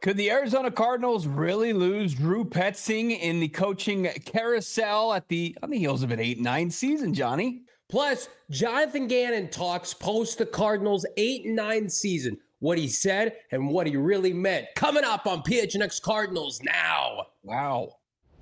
Could the Arizona Cardinals really lose Drew Petzing in the coaching carousel on the heels of an 8-9 season, Johnny? Plus, Jonathan Gannon talks post the Cardinals 8-9 season, what he said and what he really meant. Coming up on PHNX Cardinals now. Wow.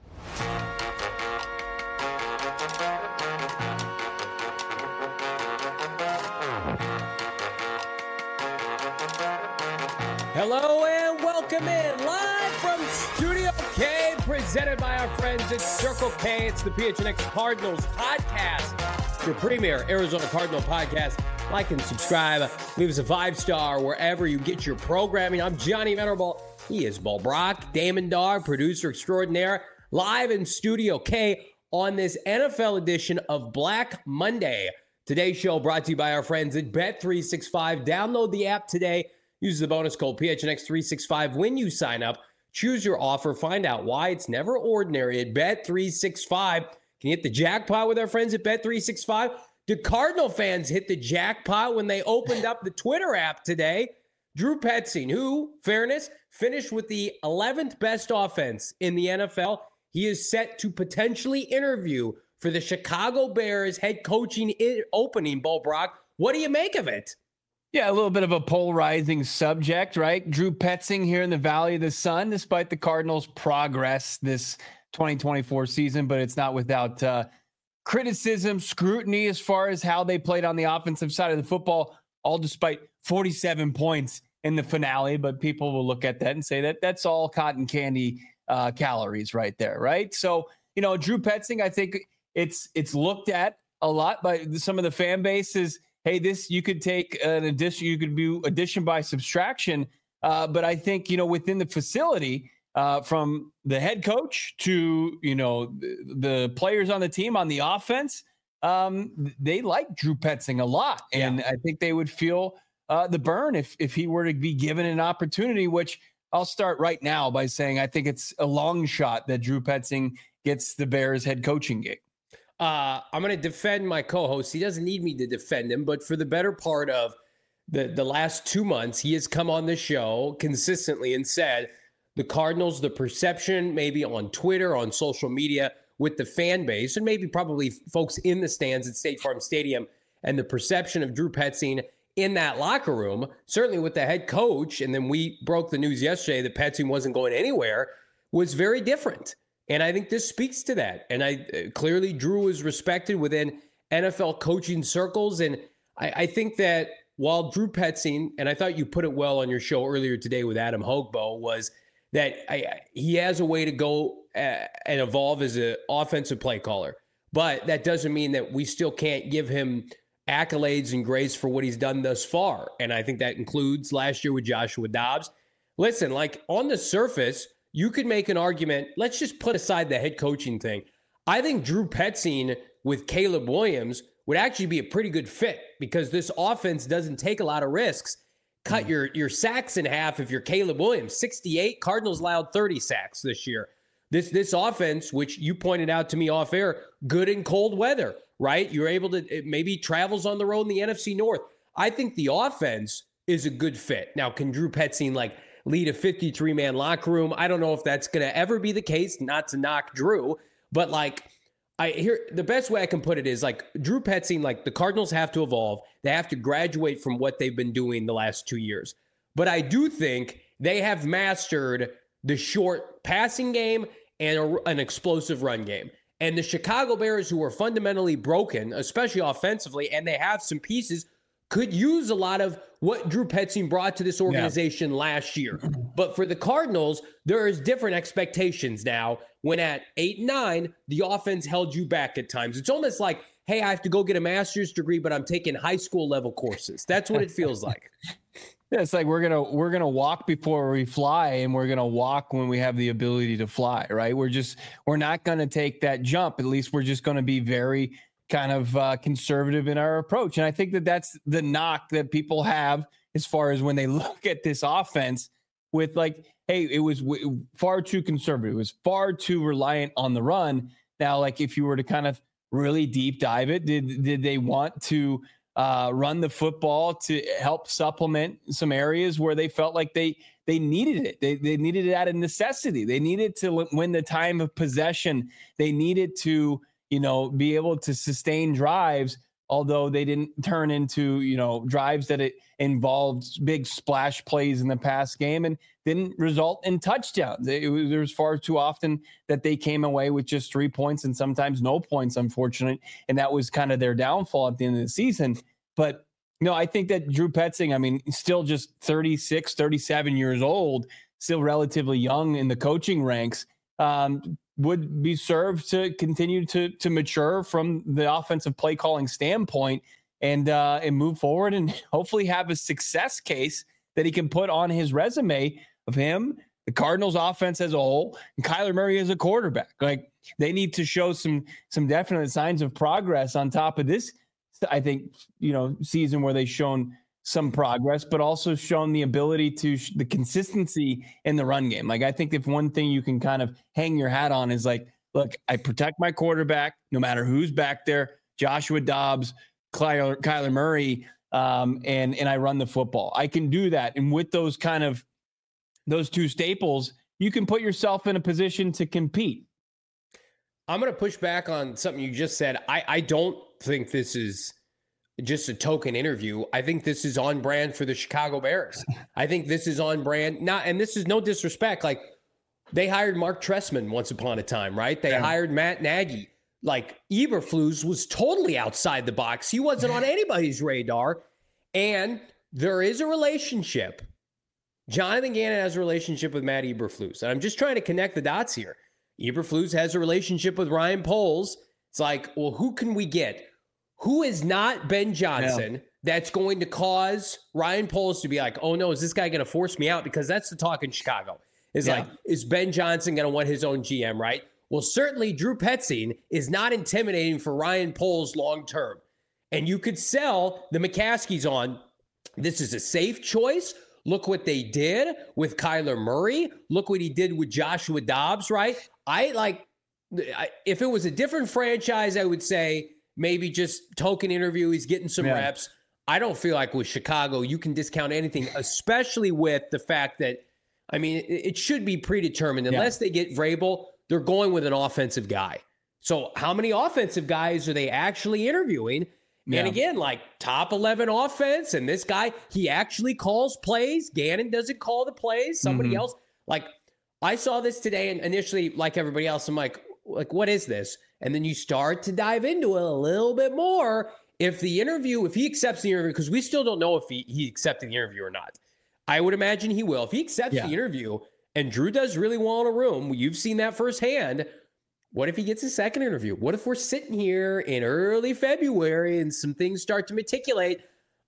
Hello and welcome in live from Studio K, presented by our friends at Circle K. It's the PHNX Cardinals podcast, your premier Arizona Cardinal podcast. Like and subscribe. Leave us a 5-star wherever you get your programming. I'm Johnny Venerable. He is Bo Brock, Damon Dog, producer extraordinaire, live in Studio K on this NFL edition of Black Monday. Today's show brought to you by our friends at Bet365. Download the app today. Use the bonus code PHNX365 when you sign up. Choose your offer. Find out why it's never ordinary at Bet365. Can you hit the jackpot with our friends at Bet365? Do Cardinal fans hit the jackpot when they opened up the Twitter app today? Drew Petzing, who, fairness, finished with the 11th best offense in the NFL. He is set to potentially interview for the Chicago Bears head coaching opening, Bo Brock. What do you make of it? Yeah, a little bit of a polarizing subject, right? Drew Petzing here in the Valley of the Sun, despite the Cardinals' progress this 2024 season, but it's not without criticism, scrutiny as far as how they played on the offensive side of the football, all despite 47 points in the finale. But people will look at that and say that that's all cotton candy calories right there, right? So, Drew Petzing, I think it's looked at a lot by some of the fan bases. Hey, you could take an addition, you could do addition by subtraction. But I think, within the facility, from the head coach to, the players on the team on the offense, they like Drew Petzing a lot. And I think they would feel the burn if he were to be given an opportunity, which I'll start right now by saying I think it's a long shot that Drew Petzing gets the Bears head coaching gig. I'm going to defend my co-host. He doesn't need me to defend him, but for the better part of the last 2 months, he has come on the show consistently and said the Cardinals, the perception maybe on Twitter, on social media with the fan base, and maybe probably folks in the stands at State Farm Stadium, and the perception of Drew Petzing in that locker room, certainly with the head coach, and then we broke the news yesterday that Petzing wasn't going anywhere, was very different. And I think this speaks to that. And clearly Drew is respected within NFL coaching circles. And I think that while Drew Petzing, and I thought you put it well on your show earlier today with Adam Hogbo, was that he has a way to go and evolve as an offensive play caller. But that doesn't mean that we still can't give him accolades and grace for what he's done thus far. And I think that includes last year with Joshua Dobbs. Listen, like on the surface, you could make an argument. Let's just put aside the head coaching thing. I think Drew Petzing with Caleb Williams would actually be a pretty good fit because this offense doesn't take a lot of risks. Cut your sacks in half if you're Caleb Williams. 68, Cardinals allowed 30 sacks this year. This offense, which you pointed out to me off air, good in cold weather, right? You're able to, it maybe travels on the road in the NFC North. I think the offense is a good fit. Now, can Drew Petzing lead a 53-man locker room? I don't know if that's going to ever be the case, not to knock Drew, but the best way I can put it is Drew Petzing, the Cardinals have to evolve. They have to graduate from what they've been doing the last 2 years. But I do think they have mastered the short passing game and an explosive run game. And the Chicago Bears, who are fundamentally broken, especially offensively, and they have some pieces, could use a lot of what Drew Petzing brought to this organization last year. But for the Cardinals, there is different expectations now when at 8-9, the offense held you back at times. It's almost like, hey, I have to go get a master's degree, but I'm taking high school level courses. That's what it feels like. Yeah, it's like we're gonna walk before we fly, and we're gonna walk when we have the ability to fly, right? We're not gonna take that jump. At least we're just gonna be very kind of conservative in our approach. And I think that that's the knock that people have as far as when they look at this offense with hey, it was far too conservative. It was far too reliant on the run. Now, if you were to kind of really deep dive it, did they want to run the football to help supplement some areas where they felt like they needed it. They needed it out of necessity. They needed to win the time of possession. They needed to, be able to sustain drives, although they didn't turn into, drives that it involved big splash plays in the past game and didn't result in touchdowns. There was far too often that they came away with just 3 points and sometimes no points, unfortunately. And that was kind of their downfall at the end of the season. But, I think that Drew Petzing, still just 36, 37 years old, still relatively young in the coaching ranks, would be served to continue to mature from the offensive play calling standpoint and move forward and hopefully have a success case that he can put on his resume of him, the Cardinals offense as a whole, and Kyler Murray as a quarterback. Like, they need to show some definite signs of progress on top of this, I think, season where they've shown some progress, but also shown the ability to the consistency in the run game. Like, I think if one thing you can kind of hang your hat on is like, look, I protect my quarterback no matter who's back there, Joshua Dobbs, Kyler Murray, and I run the football. I can do that. And with those two staples, you can put yourself in a position to compete. I'm going to push back on something you just said. I don't think this is just a token interview. I think this is on brand for the Chicago Bears. I think this is on brand. And this is no disrespect. Like, they hired Mark Trestman once upon a time, right? They hired Matt Nagy. Like, Eberflus was totally outside the box. He wasn't on anybody's radar. And there is a relationship. Jonathan Gannon has a relationship with Matt Eberflus. And I'm just trying to connect the dots here. Eberflus has a relationship with Ryan Poles. It's like, well, who can we get? Who is not Ben Johnson that's going to cause Ryan Poles to be like, oh no, is this guy going to force me out? Because that's the talk in Chicago. Like, is Ben Johnson going to want his own GM, right? Well, certainly Drew Petzing is not intimidating for Ryan Poles long-term. And you could sell the McCaskies on, this is a safe choice. Look what they did with Kyler Murray. Look what he did with Joshua Dobbs, right? If it was a different franchise, I would say maybe just token interview. He's getting some reps. I don't feel like with Chicago, you can discount anything, especially with the fact that, it should be predetermined. Unless they get Vrabel, they're going with an offensive guy. So how many offensive guys are they actually interviewing? Yeah. And again, like, top 11 offense, and this guy, he actually calls plays. Gannon doesn't call the plays. Somebody else. Like, I saw this today, and initially, like everybody else, I'm like, what is this? And then you start to dive into it a little bit more. If he accepts the interview, because we still don't know if he accepted the interview or not. I would imagine he will. If he accepts the interview and Drew does really well in a room, you've seen that firsthand. What if he gets a second interview? What if we're sitting here in early February and some things start to meticulate?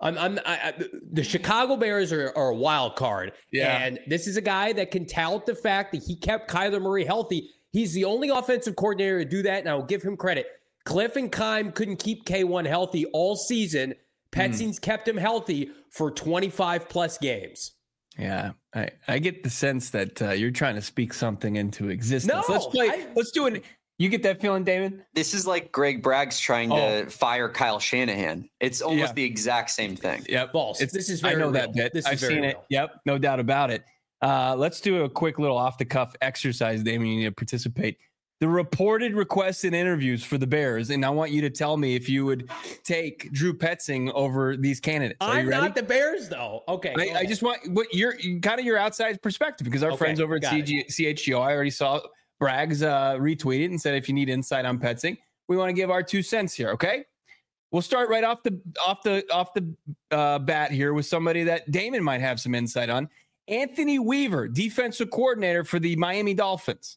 The Chicago Bears are a wild card. Yeah. And this is a guy that can tout the fact that he kept Kyler Murray healthy. He's the only offensive coordinator to do that, and I'll give him credit. Cliff and Keim couldn't keep K1 healthy all season. Petzing's kept him healthy for 25-plus games. Yeah, I get the sense that you're trying to speak something into existence. No, let's do it. You get that feeling, David? This is like Greg Bragg's trying to fire Kyle Shanahan. It's almost the exact same thing. Yep. This is very real. That bit. I've seen it. Yep, no doubt about it. Let's do a quick little off-the-cuff exercise, Damon. You need to participate. The reported requests and interviews for the Bears, and I want you to tell me if you would take Drew Petzing over these candidates. I'm not the Bears, though. Okay. I just want what your outside perspective, because our friends over at CHGO, I already saw Braggs retweeted and said, if you need insight on Petzing, we want to give our 2 cents here. Okay. We'll start right off the bat here with somebody that Damon might have some insight on. Anthony Weaver, defensive coordinator for the Miami Dolphins.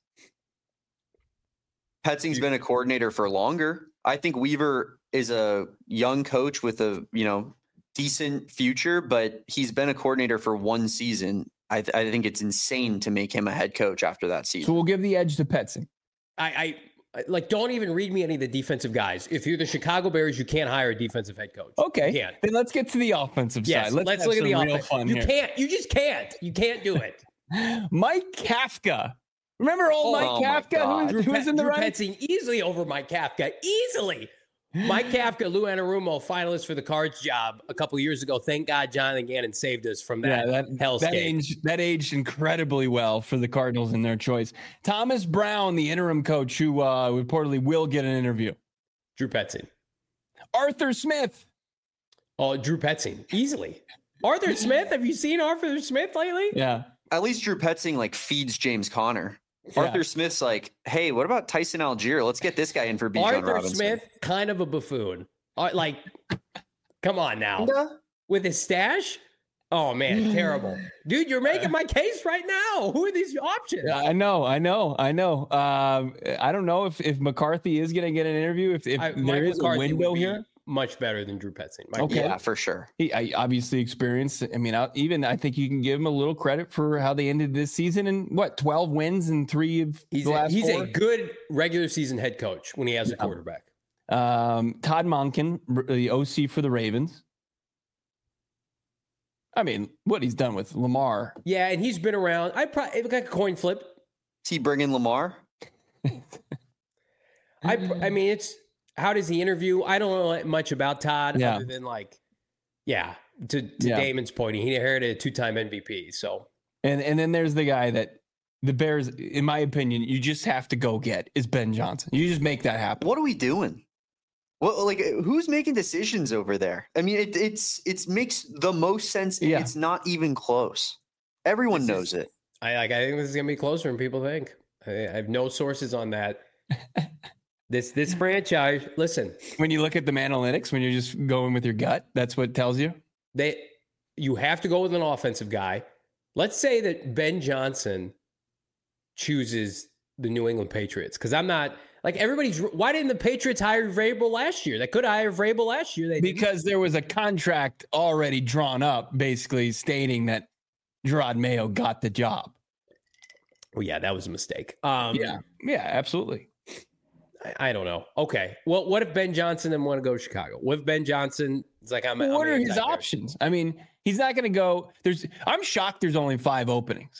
Petzing's been a coordinator for longer. I think Weaver is a young coach with a, decent future, but he's been a coordinator for 1 season. I think it's insane to make him a head coach after that season. So we'll give the edge to Petzing. I don't even read me any of the defensive guys. If you're the Chicago Bears, you can't hire a defensive head coach. Okay. Then let's get to the offensive side. Let's look at the offense. You just can't. You can't do it. Mike Kafka. Remember Mike Kafka who was in the running? Petzing easily over Mike Kafka. Easily. Mike Kafka, Lou Anarumo, finalists for the Cards job a couple years ago. Thank God Jonathan Gannon saved us from that hellscape. That aged incredibly well for the Cardinals in their choice. Thomas Brown, the interim coach, who reportedly will get an interview. Drew Petzing. Arthur Smith. Oh, Drew Petzing, easily. Arthur Smith, have you seen Arthur Smith lately? Yeah. At least Drew Petzing feeds James Conner. Yeah. Arthur Smith's like, hey, what about Tyson Algier? Let's get this guy in for Bijan Robinson. Arthur Smith, kind of a buffoon. Come on now. With his stash? Oh, man, terrible. Dude, you're making my case right now. Who are these options? I know. I don't know if McCarthy is going to get an interview, if there is a window here. Much better than Drew Petzing. Okay. Yeah, for sure. He obviously experienced. I mean, I think you can give him a little credit for how they ended this season and 12 wins and 3 of the last 4. He's a good regular season head coach when he has a quarterback. Todd Monken, the OC for the Ravens. I mean, what he's done with Lamar. Yeah, and he's been around. It looked like a coin flip. Is he bringing Lamar? I mean, it's. How does he interview? I don't know much about Todd other than to Damon's point, he inherited a 2-time MVP. So and then there's the guy that the Bears, in my opinion, you just have to go get is Ben Johnson. You just make that happen. What are we doing? Well, who's making decisions over there? I mean, it makes the most sense. And it's not even close. Everyone knows it. I think this is gonna be closer than people think. I have no sources on that. This franchise, listen. When you look at the analytics, when you're just going with your gut, that's what it tells you. You have to go with an offensive guy. Let's say that Ben Johnson chooses the New England Patriots, because I'm not everybody's. Why didn't the Patriots hire Vrabel last year? They could hire Vrabel last year. Because there was a contract already drawn up, basically stating that Gerard Mayo got the job. Well, yeah, that was a mistake. Yeah, absolutely. I don't know. Okay. Well, what if Ben Johnson didn't want to go to Chicago? What if Ben Johnson is like, what are his options? I mean, he's not going to go. I'm shocked there's only 5 openings.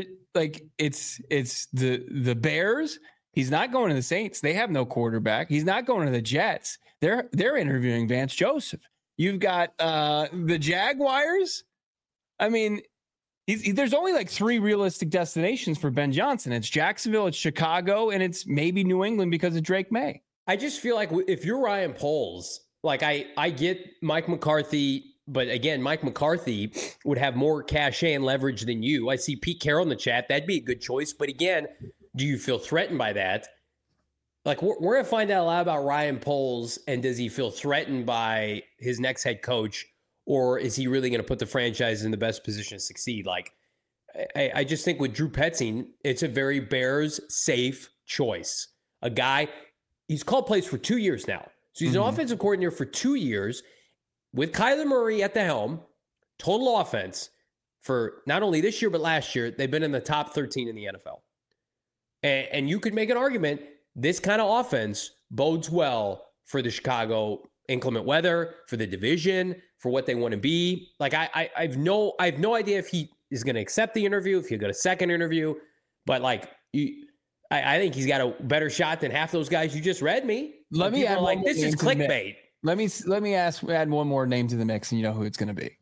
It's the Bears. He's not going to the Saints. They have no quarterback. He's not going to the Jets. They're interviewing Vance Joseph. You've got the Jaguars. I mean, there's only 3 realistic destinations for Ben Johnson. It's Jacksonville, it's Chicago, and it's maybe New England because of Drake May. I just feel like if you're Ryan Poles, I get Mike McCarthy, but again, Mike McCarthy would have more cachet and leverage than you. I see Pete Carroll in the chat. That'd be a good choice. But again, do you feel threatened by that? We're going to find out a lot about Ryan Poles, and does he feel threatened by his next head coach? Or is he really going to put the franchise in the best position to succeed? I just think with Drew Petzing, it's a very Bears safe choice. A guy, he's called plays for 2 years now. So he's an offensive coordinator for 2 years with Kyler Murray at the helm, total offense for not only this year, but last year. They've been in the top 13 in the NFL. And you could make an argument, this kind of offense bodes well for the Chicago inclement weather, for the division, for what they want to be. I have no idea if he is going to accept the interview, if he'll get a second interview, but I think he's got a better shot than half those guys you just read me. Let me add this is clickbait. Let me add one more name to the mix, and you know who it's going to be.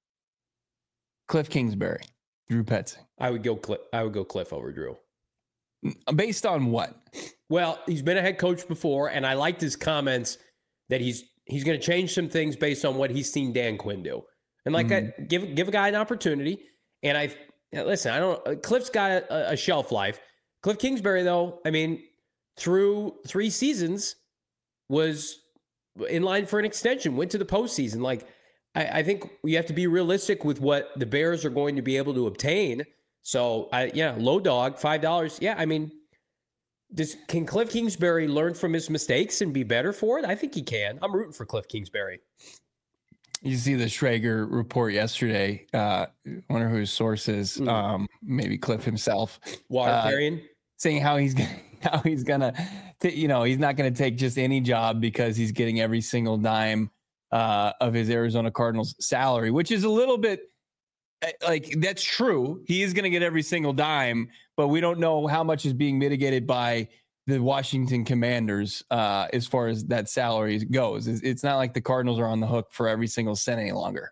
Cliff Kingsbury, Drew Petzing. I would go Cliff over Drew. Based on what? Well, he's been a head coach before, and I liked his comments that he's going to change some things based on what he's seen Dan Quinn do. And give a guy an opportunity. And Cliff's got a shelf life. Cliff Kingsbury, though, I mean, through 3 seasons was in line for an extension, went to the postseason. I think you have to be realistic with what the Bears are going to be able to obtain. So, low dog, $5. Yeah, I mean, can Cliff Kingsbury learn from his mistakes and be better for it? I think he can. I'm rooting for Cliff Kingsbury. You see the Schrager report yesterday. Wonder who his source is. Maybe Cliff himself. Water carrying, saying how he's gonna, he's not gonna take just any job because he's getting every single dime of his Arizona Cardinals salary, which is a little bit that's true. He is gonna get every single dime, but we don't know how much is being mitigated by the Washington Commanders as far as that salary goes. It's not like the Cardinals are on the hook for every single cent any longer.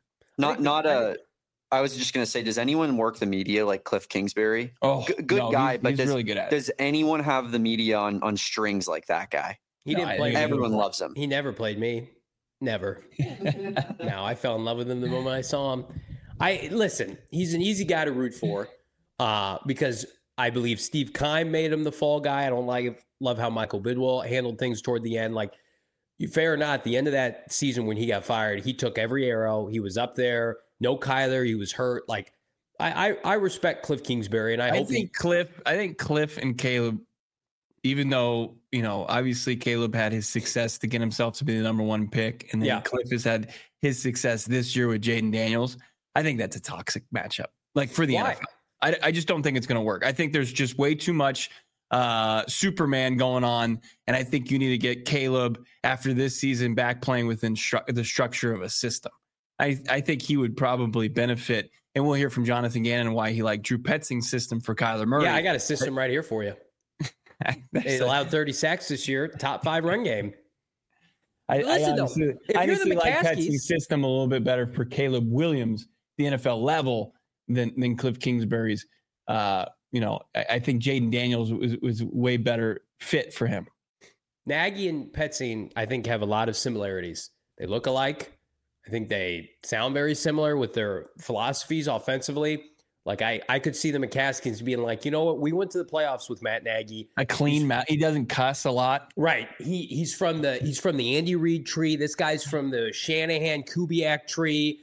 I was just going to say, does anyone work the media like Cliff Kingsbury? Oh, good guy, but he's really good at it. Does anyone have the media on strings like that guy? He didn't play. Everyone loves him. He never played me. Never. No, I fell in love with him the moment I saw him. Listen, he's an easy guy to root for because I believe Steve Keim made him the fall guy. I don't love how Michael Bidwell handled things toward the end. Like, fair or not, at the end of that season when he got fired, he took every arrow. He was up there. No Kyler, he was hurt. Like, I respect Cliff Kingsbury, and I think Cliff and Caleb, even though, obviously Caleb had his success to get himself to be the number one pick, and then Cliff has had his success this year with Jaden Daniels. I think that's a toxic matchup, like for the NFL. I just don't think it's going to work. I think there's just way too much Superman going on, and I think you need to get Caleb after this season back playing within the structure of a system. I think he would probably benefit, and we'll hear from Jonathan Gannon why he liked Drew Petzing's system for Kyler Murray. Yeah, I got a system right here for you. They allowed 30 sacks this year, top 5 run game. I honestly like Petzing's system a little bit better for Caleb Williams, the NFL level, than Cliff Kingsbury's. I think Jaden Daniels was way better fit for him. Nagy and Petzing, I think, have a lot of similarities. They look alike. I think they sound very similar with their philosophies offensively. Like, I could see the McCaskies being like, you know what? We went to the playoffs with Matt Nagy. A clean Matt. He doesn't cuss a lot. Right. He's from the Andy Reid tree. This guy's from the Shanahan Kubiak tree.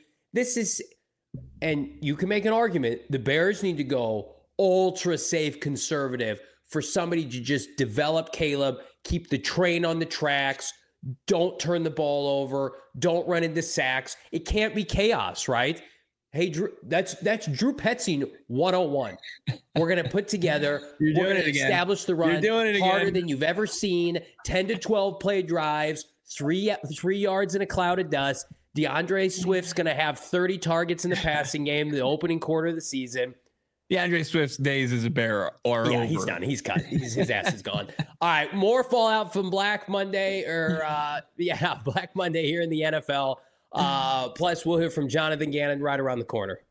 And you can make an argument. The Bears need to go ultra safe conservative for somebody to just develop Caleb, keep the train on the tracks, don't turn the ball over, don't run into sacks. It can't be chaos, right? Hey, Drew, that's Drew Petzing 101. We're going to put together, we're going to establish the run harder than you've ever seen, 10 to 12 play drives, 3 yards in a cloud of dust. DeAndre Swift's going to have 30 targets in the passing game, the opening quarter of the season. DeAndre Swift's days as a Bear are over. He's done. He's cut. His ass is gone. All right, more fallout from Black Monday Black Monday here in the NFL. Plus, we'll hear from Jonathan Gannon right around the corner.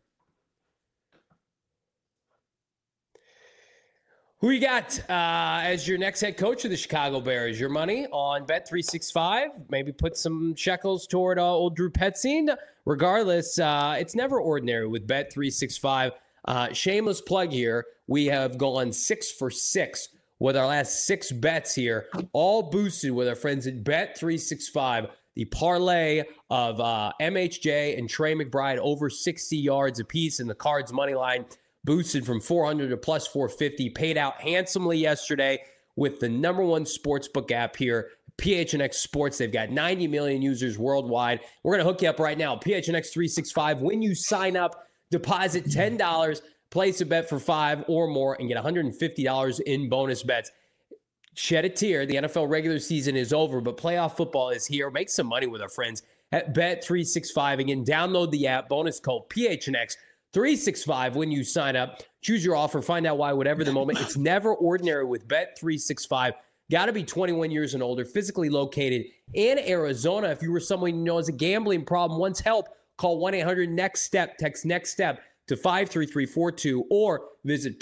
Who you got as your next head coach of the Chicago Bears? Your money on Bet365. Maybe put some shekels toward old Drew Petzing. Regardless, it's never ordinary with Bet365. Shameless plug here. We have gone 6 for 6 with our last 6 bets here, all boosted with our friends at Bet365. The parlay of MHJ and Trey McBride over 60 yards apiece, and the Cards money line boosted from 400 to plus 450. Paid out handsomely yesterday with the #1 sportsbook app here, PHNX Sports. They've got 90 million users worldwide. We're going to hook you up right now. PHNX 365. When you sign up, deposit $10, place a bet for 5 or more, and get $150 in bonus bets. Shed a tear. The NFL regular season is over, but playoff football is here. Make some money with our friends at Bet365. Again, download the app. Bonus code PHNX365 when you sign up. Choose your offer. Find out why, whatever the moment. It's never ordinary with Bet365. Got to be 21 years and older, physically located in Arizona. If you were someone you know has a gambling problem, wants help, call 1-800-NEXT-STEP. Text NEXT STEP to 53342 or visit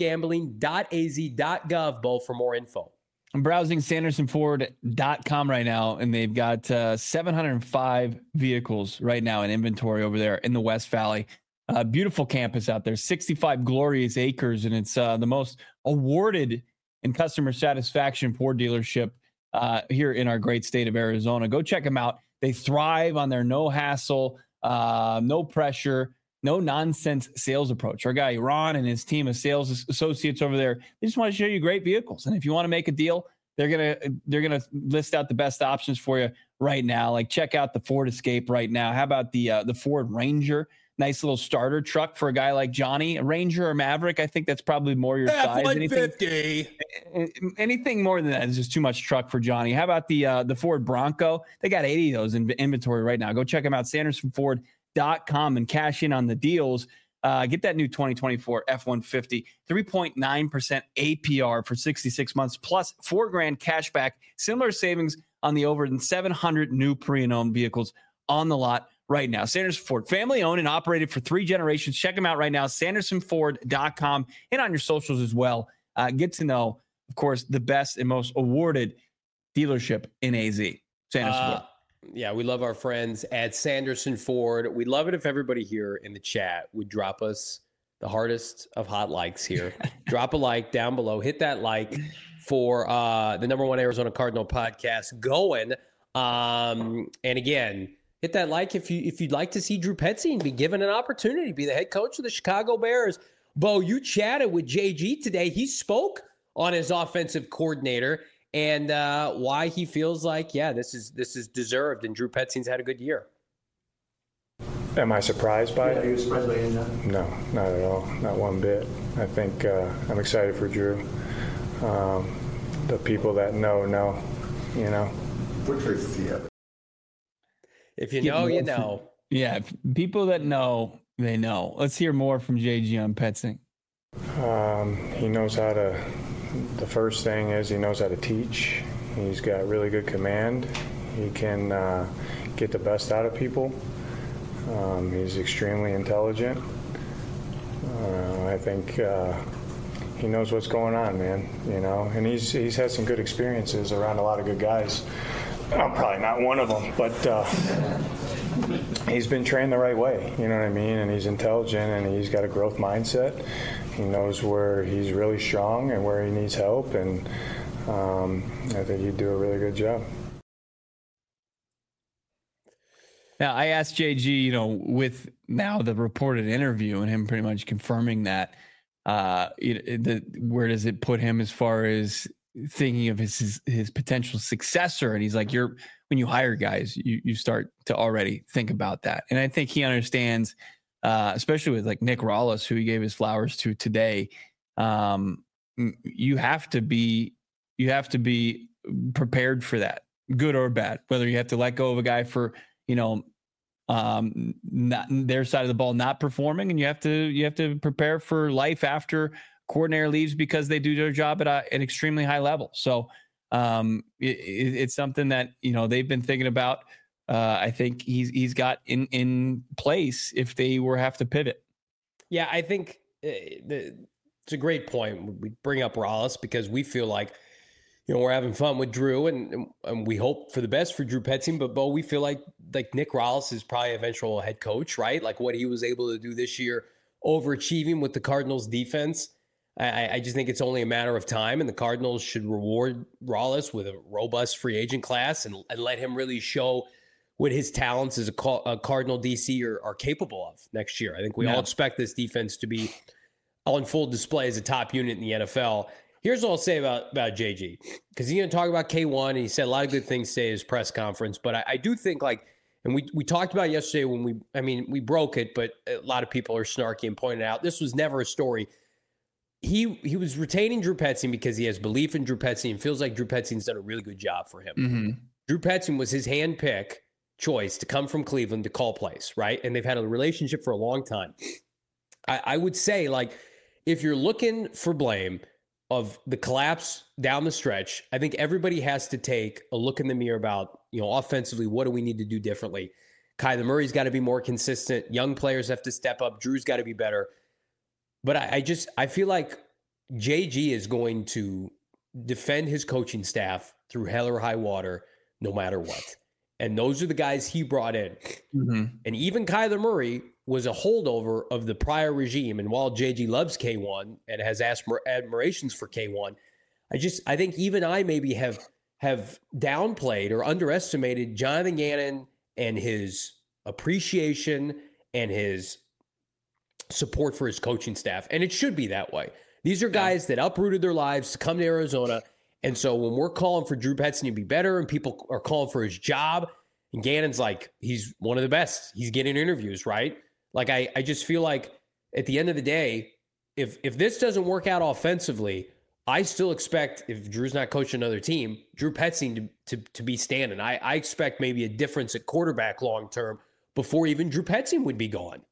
problemgambling.az.gov, Bo, for more info. I'm browsing SandersonFord.com right now, and they've got 705 vehicles right now in inventory over there in the West Valley. Beautiful campus out there, 65 glorious acres, and it's the most awarded in customer satisfaction Ford dealership here in our great state of Arizona. Go check them out. They thrive on their no hassle, no pressure, no nonsense sales approach. Our guy Ron and his team of sales associates over there, they just want to show you great vehicles. And if you want to make a deal, they're gonna list out the best options for you right now. Like, check out the Ford Escape right now. How about the Ford Ranger? Nice little starter truck for a guy like Johnny. A Ranger or Maverick, I think that's probably more your size. Anything more than that is just too much truck for Johnny. How about the Ford Bronco? They got 80 of those in inventory right now. Go check them out, SandersonFord.com, and cash in on the deals. Get that new 2024 F-150, 3.9% APR for 66 months, plus $4,000 cash back. Similar savings on the over 700 new pre-owned vehicles on the lot right now. Sanderson Ford, family owned and operated for 3 generations. Check them out right now, sandersonford.com, and on your socials as well. Get to know, of course, the best and most awarded dealership in AZ, Sanderson Ford. Yeah, we love our friends at Sanderson Ford. We'd love it if everybody here in the chat would drop us the hardest of hot likes here. Drop a like down below. Hit that like for the #1 Arizona Cardinal podcast going. And again, hit that like if you'd like to see Drew Petzing be given an opportunity to be the head coach of the Chicago Bears. Bo, you chatted with JG today. He spoke on his offensive coordinator and why he feels like, this is deserved, and Drew Petzing's had a good year. Am I surprised by it? Are you surprised by it? No, not at all. Not one bit. I think I'm excited for Drew. The people that know, you know. What traits does he have? If you know, you know. Yeah, people that know, they know. Let's hear more from JG on Petzing. He knows how to. The first thing is he knows how to teach. He's got really good command. He can get the best out of people. He's extremely intelligent. I think he knows what's going on, man. You know, and he's had some good experiences around a lot of good guys. I'm probably not one of them, but he's been trained the right way. You know what I mean? And he's intelligent, and he's got a growth mindset. He knows where he's really strong and where he needs help, and I think he'd do a really good job. Now, I asked JG, with now the reported interview and him pretty much confirming that, where does it put him as far as thinking of his potential successor? And he's like, when you hire guys, you start to already think about that. And I think he understands, especially with like Nick Rallis, who he gave his flowers to today. You have to be prepared for that, good or bad, whether you have to let go of a guy for, not their side of the ball not performing, and you have to prepare for life after coordinator leaves because they do their job at an extremely high level. So it's something that they've been thinking about. I think he's got in place if they have to pivot. Yeah, I think it's a great point. We bring up Rallis because we feel like we're having fun with Drew, and we hope for the best for Drew Petzing. But Bo, we feel like Nick Rallis is probably eventual head coach, right? Like what he was able to do this year, overachieving with the Cardinals defense. I just think it's only a matter of time, and the Cardinals should reward Rallis with a robust free agent class and let him really show what his talents as a Cardinal DC are capable of next year. I think we all expect this defense to be on full display as a top unit in the NFL. Here's what I'll say about JG, because he's going to talk about K1, and he said a lot of good things today at his press conference. But I do think, and we talked about it yesterday when we broke it, but a lot of people are snarky and pointed out this was never a story. He was retaining Drew Petzing because he has belief in Drew Petzing and feels like Drew Petzing's done a really good job for him. Mm-hmm. Drew Petzing was his handpick choice to come from Cleveland to call plays, right? And they've had a relationship for a long time. I would say, if you're looking for blame of the collapse down the stretch, I think everybody has to take a look in the mirror about, offensively, what do we need to do differently? Kyler Murray's got to be more consistent. Young players have to step up. Drew's got to be better. But I feel like JG is going to defend his coaching staff through hell or high water, no matter what. And those are the guys he brought in. Mm-hmm. And even Kyler Murray was a holdover of the prior regime. And while JG loves K1 and has admirations for K1, I think even I maybe have downplayed or underestimated Jonathan Gannon and his appreciation and his support for his coaching staff. And it should be that way. These are guys that uprooted their lives to come to Arizona. And so when we're calling for Drew Petzing to be better and people are calling for his job, and Gannon's like, he's one of the best. He's getting interviews, right? I just feel like at the end of the day, if this doesn't work out offensively, I still expect, if Drew's not coaching another team, Drew Petzing to be standing. I expect maybe a difference at quarterback long-term before even Drew Petzing would be gone.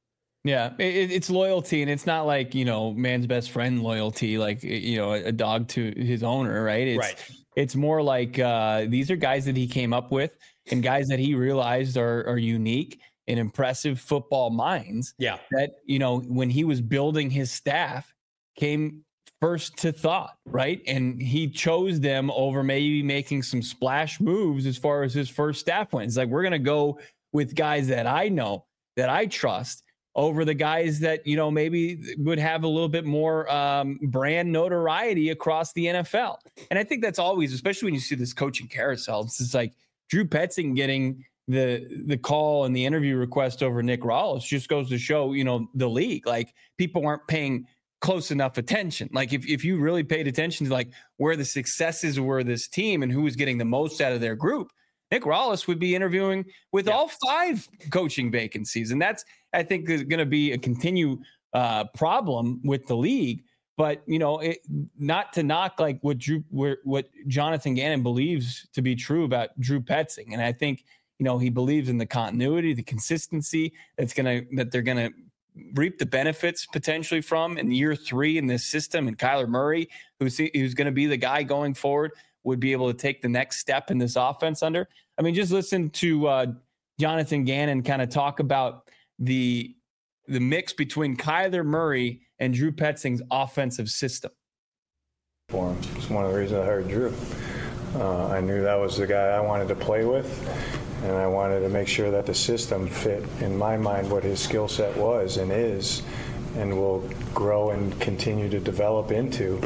Yeah, it's loyalty, and it's not like, man's best friend loyalty, like, a dog to his owner, right? It's more like these are guys that he came up with and guys that he realized are unique and impressive football minds. Yeah. That, when he was building his staff, came first to thought, right? And he chose them over maybe making some splash moves as far as his first staff went. It's like, we're going to go with guys that I know, that I trust, over the guys that, maybe would have a little bit more brand notoriety across the NFL. And I think that's always, especially when you see this coaching carousel, it's like Drew Petzing getting the call and the interview request over Nick Rallis just goes to show, the league, like, people aren't paying close enough attention. Like, if you really paid attention to like where the successes were this team and who was getting the most out of their group, Nick Rallis would be interviewing with all 5 coaching vacancies. And that's, I think, is going to be a continued problem with the league. But, not to knock like what Jonathan Gannon believes to be true about Drew Petzing. And I think, he believes in the continuity, the consistency that they're going to reap the benefits potentially from in year 3 in this system. And Kyler Murray, who's going to be the guy going forward, would be able to take the next step in this offense under. I mean, just listen to Jonathan Gannon kind of talk about the mix between Kyler Murray and Drew Petzing's offensive system. For him. It's one of the reasons I hired Drew. I knew that was the guy I wanted to play with, and I wanted to make sure that the system fit, in my mind, what his skill set was and is, and will grow and continue to develop into.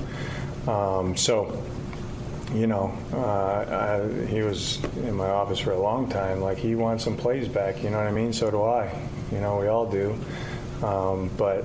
He was in my office for a long time. Like, he wants some plays back, you know what I mean? So do I. We all do. But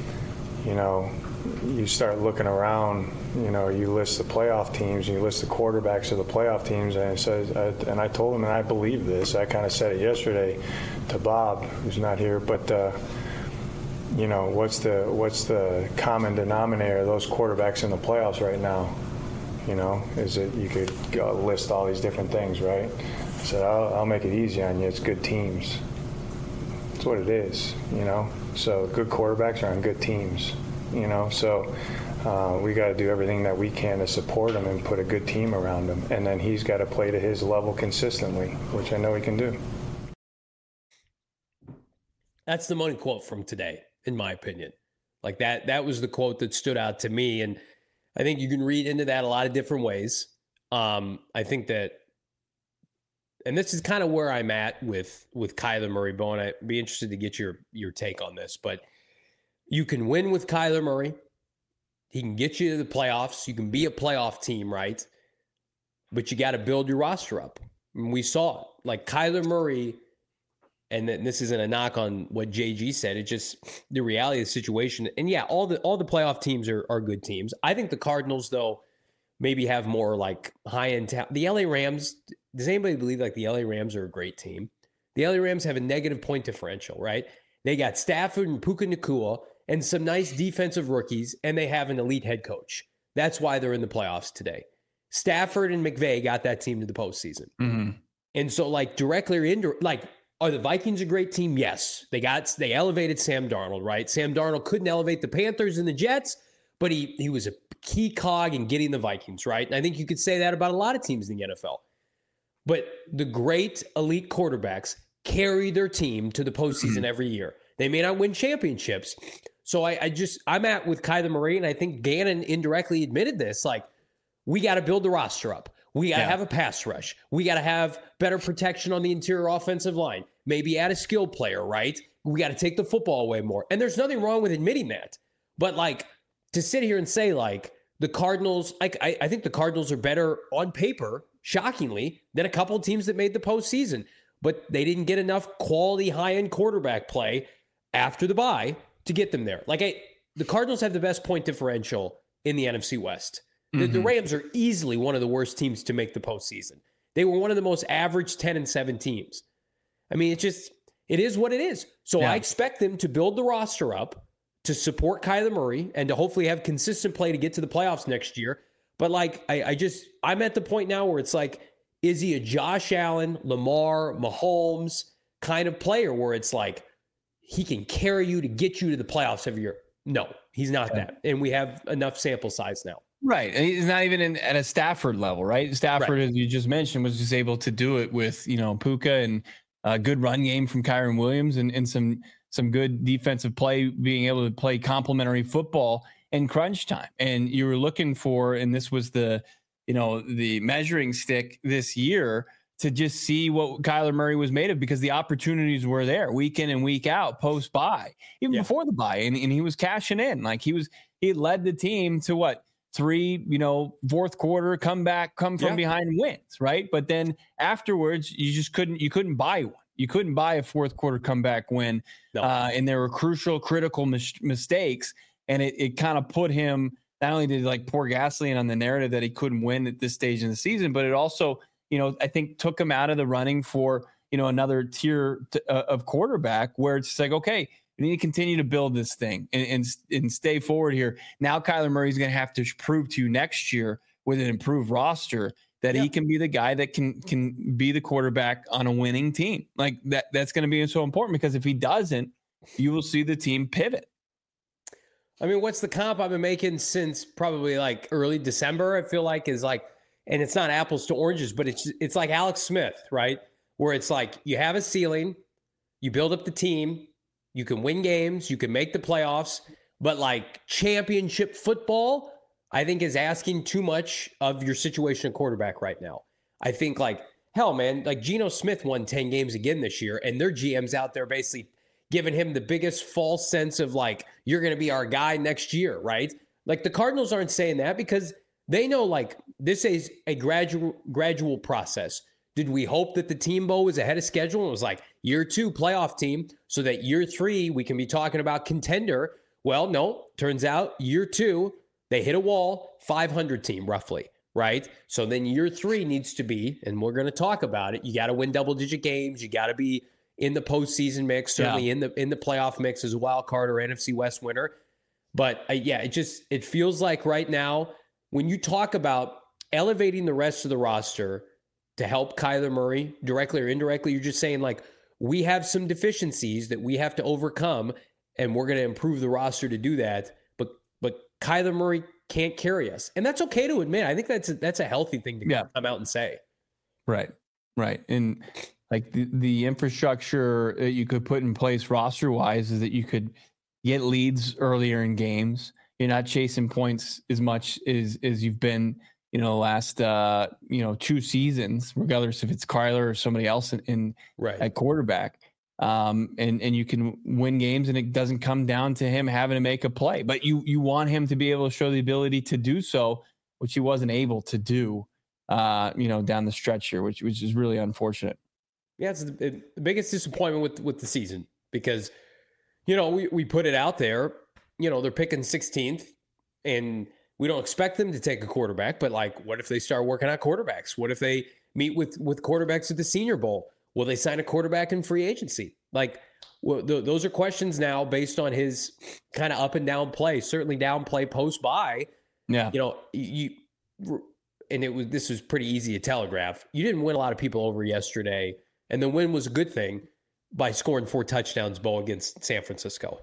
you start looking around, you list the playoff teams, and you list the quarterbacks of the playoff teams, and I told him, and I believe this, I kind of said it yesterday to Bob, who's not here, but what's the common denominator of those quarterbacks in the playoffs right now? Is it, you could list all these different things, right? I said, I'll make it easy on you. It's good teams. That's what it is, So good quarterbacks are on good teams, So we got to do everything that we can to support him and put a good team around him. And then he's got to play to his level consistently, which I know he can do. That's the money quote from today, in my opinion. Like, that was the quote that stood out to me. And I think you can read into that a lot of different ways. I think that, and this is kind of where I'm at with Kyler Murray, Bo, and I'd be interested to get your take on this. But you can win with Kyler Murray. He can get you to the playoffs. You can be a playoff team, right? But you got to build your roster up. And we saw it. Like, Kyler Murray, and this isn't a knock on what JG said. It's just the reality of the situation. And yeah, all the playoff teams are good teams. I think the Cardinals, though, maybe have more like high-end talent. The LA Rams, does anybody believe like the LA Rams are a great team? The LA Rams have a negative point differential, right? They got Stafford and Puka Nacua and some nice defensive rookies, and they have an elite head coach. That's why they're in the playoffs today. Stafford and McVay got that team to the postseason. Mm-hmm. And so, like, directly or indirectly, like, are the Vikings a great team? Yes. They elevated Sam Darnold, right? Sam Darnold couldn't elevate the Panthers and the Jets, but he was a key cog in getting the Vikings, right? And I think you could say that about a lot of teams in the NFL. But the great elite quarterbacks carry their team to the postseason every year. They may not win championships. So I'm at with Kyler Murray, and I think Gannon indirectly admitted this. Like, we got to build the roster up. We got to have a pass rush. We got to have better protection on the interior offensive line. Maybe add a skill player, right? We got to take the football away more. And there's nothing wrong with admitting that. But, like, to sit here and say, like, the Cardinals, like, I think the Cardinals are better on paper, shockingly, than a couple of teams that made the postseason. But they didn't get enough quality high-end quarterback play after the bye to get them there. Like, the Cardinals have the best point differential in the NFC West. The Rams are easily one of the worst teams to make the postseason. They were one of the most average 10-7 teams. I mean, it is what it is. So I expect them to build the roster up to support Kyler Murray and to hopefully have consistent play to get to the playoffs next year. But, like, I'm at the point now where it's like, is he a Josh Allen, Lamar, Mahomes kind of player where it's like, he can carry you to get you to the playoffs every year. No, he's not that. And we have enough sample size now. Right. And he's not even at a Stafford level, right? Stafford, as you just mentioned, was just able to do it with, Puka and a good run game from Kyren Williams and some good defensive play, being able to play complementary football in crunch time. And you were looking for, and this was the measuring stick this year to just see what Kyler Murray was made of, because the opportunities were there week in and week out post bye, even before the bye. And he was cashing in. Like he led the team to what? 3, fourth quarter come from behind wins, right? But then afterwards, you couldn't buy one. You couldn't buy a fourth quarter comeback win. No. And there were critical mistakes. And it kind of put him, not only did like pour gasoline on the narrative that he couldn't win at this stage in the season, but it also, I think took him out of the running for, another tier of quarterback, where it's like, okay, we need to continue to build this thing and stay forward here. Now Kyler Murray's going to have to prove to you next year with an improved roster that he can be the guy that can be the quarterback on a winning team. Like that's going to be so important, because if he doesn't, you will see the team pivot. I mean, what's the comp I've been making since probably like early December? I feel like is like, and it's not apples to oranges, but it's like Alex Smith, right? Where it's like you have a ceiling, you build up the team, you can win games, you can make the playoffs, but like championship football, I think is asking too much of your situation at quarterback right now. I think like, hell, man, like Geno Smith won 10 games again this year, and their GM's out there basically giving him the biggest false sense of like, you're going to be our guy next year, right? Like the Cardinals aren't saying that because they know like this is a gradual process. Did we hope that the team, Bo, was ahead of schedule and was like year 2 playoff team so that year 3 we can be talking about contender? Well, no, turns out year 2, they hit a wall, 500 team roughly, right? So then year 3 needs to be, and we're going to talk about it, you got to win double-digit games. You got to be in the postseason mix, certainly in the playoff mix as a wild card or NFC West winner. But it feels like right now when you talk about elevating the rest of the roster to help Kyler Murray directly or indirectly, you're just saying like, we have some deficiencies that we have to overcome and we're going to improve the roster to do that. But Kyler Murray can't carry us. And that's okay to admit. I think that's a healthy thing to come out and say. Right. And like the infrastructure that you could put in place roster wise is that you could get leads earlier in games. You're not chasing points as much as you've been, the last, 2 seasons, regardless if it's Kyler or somebody else at quarterback. And you can win games, and it doesn't come down to him having to make a play, but you want him to be able to show the ability to do so, which he wasn't able to do, down the stretch here, which is really unfortunate. Yeah, it's the biggest disappointment with the season because, we put it out there, they're picking 16th and we don't expect them to take a quarterback, but like, what if they start working on quarterbacks? What if they meet with quarterbacks at the Senior Bowl? Will they sign a quarterback in free agency? Like, those are questions now based on his kind of up and down play, certainly down play post bye. Yeah. This was pretty easy to telegraph. You didn't win a lot of people over yesterday, and the win was a good thing by scoring 4 touchdowns, Bo, against San Francisco.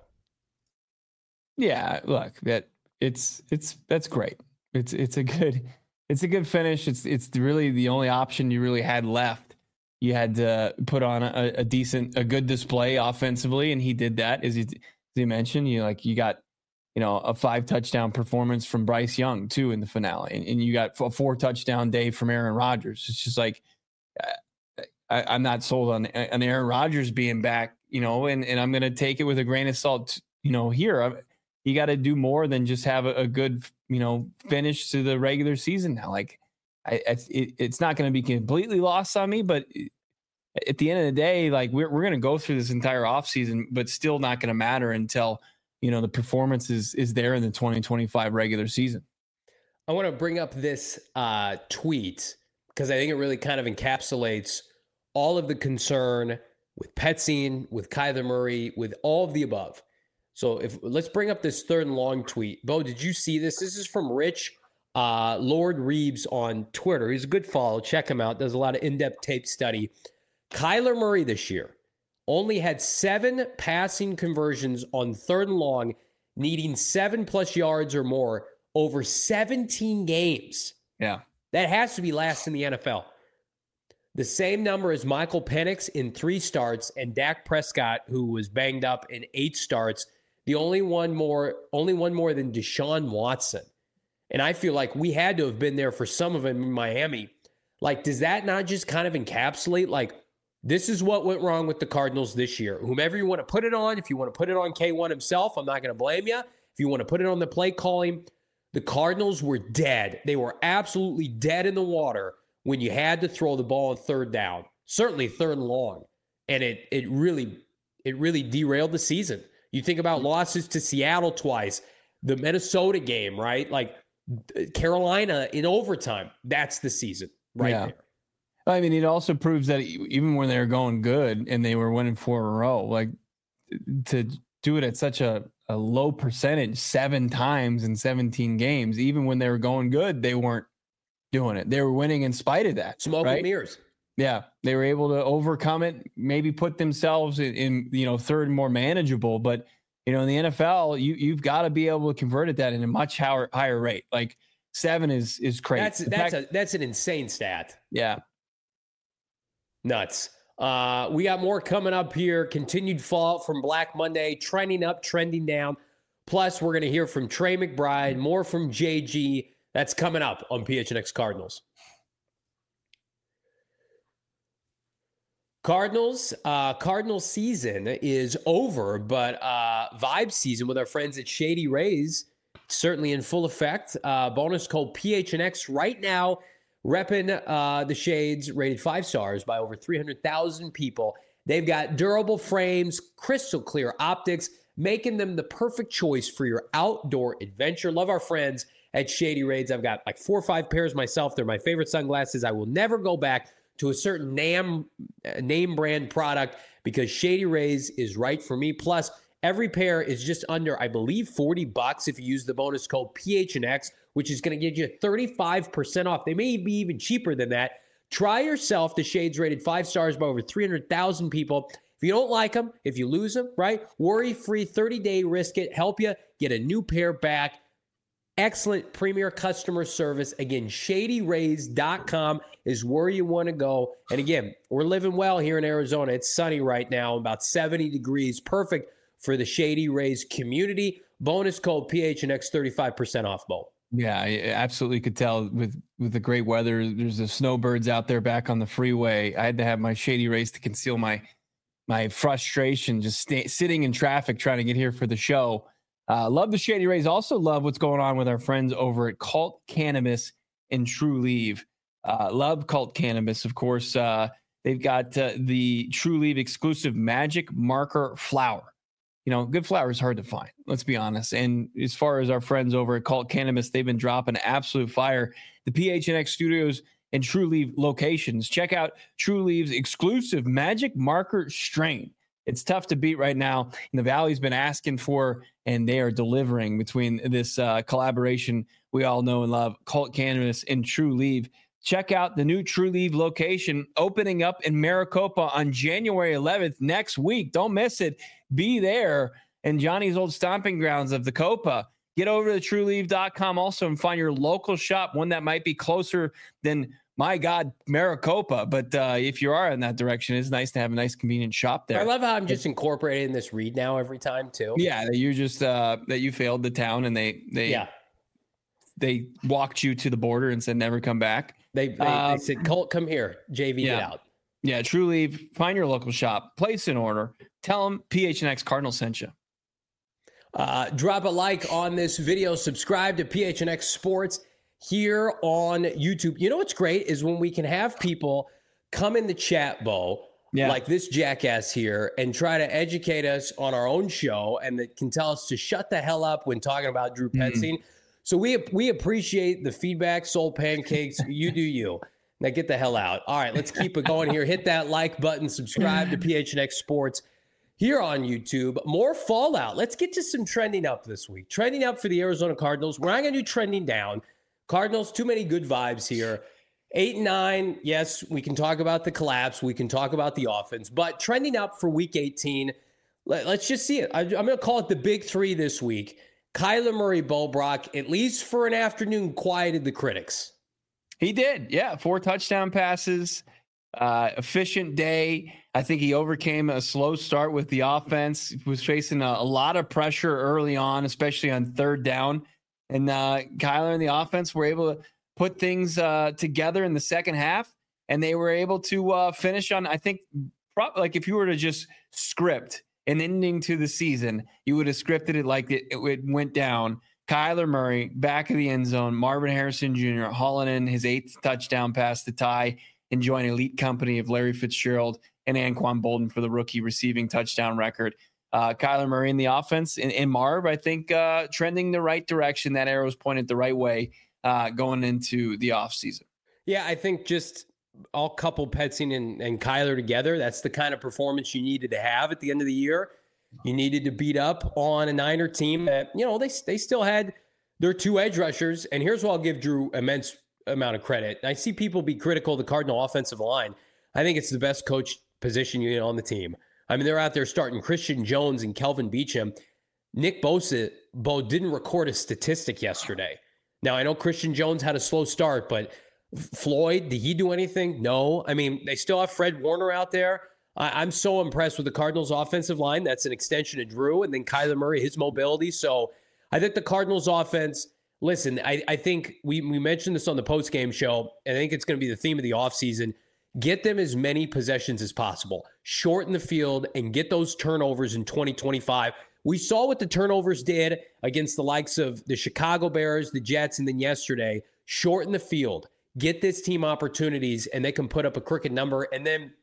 Yeah, look, that's great. It's a good finish. It's really the only option you really had left. You had to put on a good display offensively, and he did that. As you mentioned, you got a 5 touchdown performance from Bryce Young too in the finale, and you got a 4 touchdown day from Aaron Rodgers. It's just like I'm not sold on Aaron Rodgers being back, and I'm going to take it with a grain of salt. Here you got to do more than just have a good finish to the regular season now. Like it's not going to be completely lost on me, but at the end of the day, like we're going to go through this entire offseason, but still not going to matter until the performance is there in the 2025 regular season. I want to bring up this tweet because I think it really kind of encapsulates all of the concern with Petzing, with Kyler Murray, with all of the above. So let's bring up this 3rd and long tweet. Bo, did you see this? This is from Rich Lord Reeves on Twitter. He's a good follow. Check him out. Does a lot of in-depth tape study. Kyler Murray this year, only had 7 passing conversions on 3rd and long, needing 7+ yards or more over 17 games. Yeah. That has to be last in the NFL. The same number as Michael Penix in 3 starts and Dak Prescott, who was banged up in 8 starts. The only one more than Deshaun Watson. And I feel like we had to have been there for some of them in Miami. Like, does that not just kind of encapsulate, like, this is what went wrong with the Cardinals this year? Whomever you want to put it on, if you want to put it on K1 himself, I'm not going to blame you. If you want to put it on the play calling, the Cardinals were dead. They were absolutely dead in the water when you had to throw the ball on 3rd down, certainly 3rd and long. And it really derailed the season. You think about losses to Seattle twice, the Minnesota game, right? Like Carolina in overtime. That's the season there. I mean, it also proves that even when they were going good and they were winning 4 in a row, like to do it at such a low percentage 7 times in 17 games, even when they were going good, they weren't doing it. They were winning in spite of that. Smoke and mirrors. Yeah. They were able to overcome it, maybe put themselves in 3rd and more manageable. But, in the NFL, you've got to be able to convert at that in a much higher rate. Like 7 is crazy. That's an insane stat. Yeah. Nuts. We got more coming up here. Continued fallout from Black Monday, trending up, trending down. Plus, we're going to hear from Trey McBride, more from JG. That's coming up on PHNX Cardinals. Cardinals season is over, but vibe season with our friends at Shady Rays certainly in full effect. Bonus code PHNX right now, repping the Shades, rated 5 stars by over 300,000 people. They've got durable frames, crystal clear optics, making them the perfect choice for your outdoor adventure. Love our friends at Shady Rays. I've got like 4 or 5 pairs myself. They're my favorite sunglasses. I will never go back to a certain name brand product because Shady Rays is right for me. Plus, every pair is just under, I believe, $40 if you use the bonus code PHNX, which is going to get you 35% off. They may be even cheaper than that. Try yourself the Shades rated 5 stars by over 300,000 people. If you don't like them, if you lose them, right? Worry-free 30-day risk it. Help you get a new pair back. Excellent premier customer service. Again, ShadyRays.com is where you want to go. And again, we're living well here in Arizona. It's sunny right now, about 70 degrees. Perfect for the Shady Rays community. Bonus code PHNX, 35% off, Bo. Yeah, I absolutely could tell with the great weather. There's the snowbirds out there back on the freeway. I had to have my Shady Rays to conceal my frustration just sitting in traffic trying to get here for the show. Love the Shady Rays. Also love what's going on with our friends over at Cult Cannabis and Trulieve. Love Cult Cannabis, of course. They've got the Trulieve exclusive Magic Marker flower. Good flower is hard to find. Let's be honest. And as far as our friends over at Cult Cannabis, they've been dropping absolute fire. The PHNX studios and Trulieve locations. Check out Trulieve's exclusive Magic Marker strain. It's tough to beat right now. And the Valley's been asking for, and they are delivering between this collaboration we all know and love, Cult Cannabis and Trulieve. Check out the new Trulieve location opening up in Maricopa on January 11th next week. Don't miss it. Be there in Johnny's old stomping grounds of the Copa. Get over to Trulieve.com also and find your local shop, one that might be closer than, my God, Maricopa. But if you are in that direction, it's nice to have a nice, convenient shop there. I love how I'm just incorporating this read now every time, too. Yeah, that you just that you failed the town and they walked you to the border and said never come back. They said, Colt, come here. JV, get out. Yeah, Trulieve. Find your local shop. Place an order. Tell them PHNX Cardinal sent you. Drop a like on this video. Subscribe to PHNX Sports here on YouTube. You know what's great is when we can have people come in the chat, Bo, like this jackass here, and try to educate us on our own show and that can tell us to shut the hell up when talking about Drew Petzing. So we appreciate the feedback, Soul Pancakes. You do you. Now get the hell out. All right, let's keep it going here. Hit that like button. Subscribe to PHNX Sports here on YouTube. More fallout. Let's get to some trending up this week. Trending up for the Arizona Cardinals. We're not going to do trending down. Cardinals, too many good vibes here. 8-9, yes, we can talk about the collapse. We can talk about the offense, but trending up for week 18, let's just see it. I'm going to call it the big three this week. Kyler Murray, Bo Brock, at least for an afternoon, quieted the critics. He did. Yeah. 4 touchdown passes, efficient day. I think he overcame a slow start with the offense. He was facing a lot of pressure early on, especially on third down. And Kyler and the offense were able to put things together in the second half, and they were able to finish on, I think, like if you were to just script an ending to the season, you would have scripted it like it went down. Kyler Murray, back of the end zone, Marvin Harrison Jr. hauling in his 8th touchdown pass to tie, enjoying elite company of Larry Fitzgerald and Anquan Bolden for the rookie receiving touchdown record. Kyler Murray in the offense and Marv, I think, trending the right direction. That arrow's pointed the right way going into the offseason. Yeah, I think just all couple Petzing and Kyler together, that's the kind of performance you needed to have at the end of the year. You needed to beat up on a Niner team that, they still had their 2 edge rushers. And here's what I'll give Drew immense amount of credit. I see people be critical of the Cardinal offensive line. I think it's the best coach position unit on the team. I mean, they're out there starting Christian Jones and Kelvin Beachum. Nick Bo didn't record a statistic yesterday. Now, I know Christian Jones had a slow start, but Floyd, did he do anything? No. I mean, they still have Fred Warner out there. I'm so impressed with the Cardinals' offensive line. That's an extension of Drew, and then Kyler Murray, his mobility. So I think the Cardinals' offense, listen, I think we mentioned this on the postgame show, and I think it's going to be the theme of the offseason. Get them as many possessions as possible. Shorten the field and get those turnovers in 2025. We saw what the turnovers did against the likes of the Chicago Bears, the Jets, and then yesterday. Shorten the field. Get this team opportunities, and they can put up a crooked number. And then,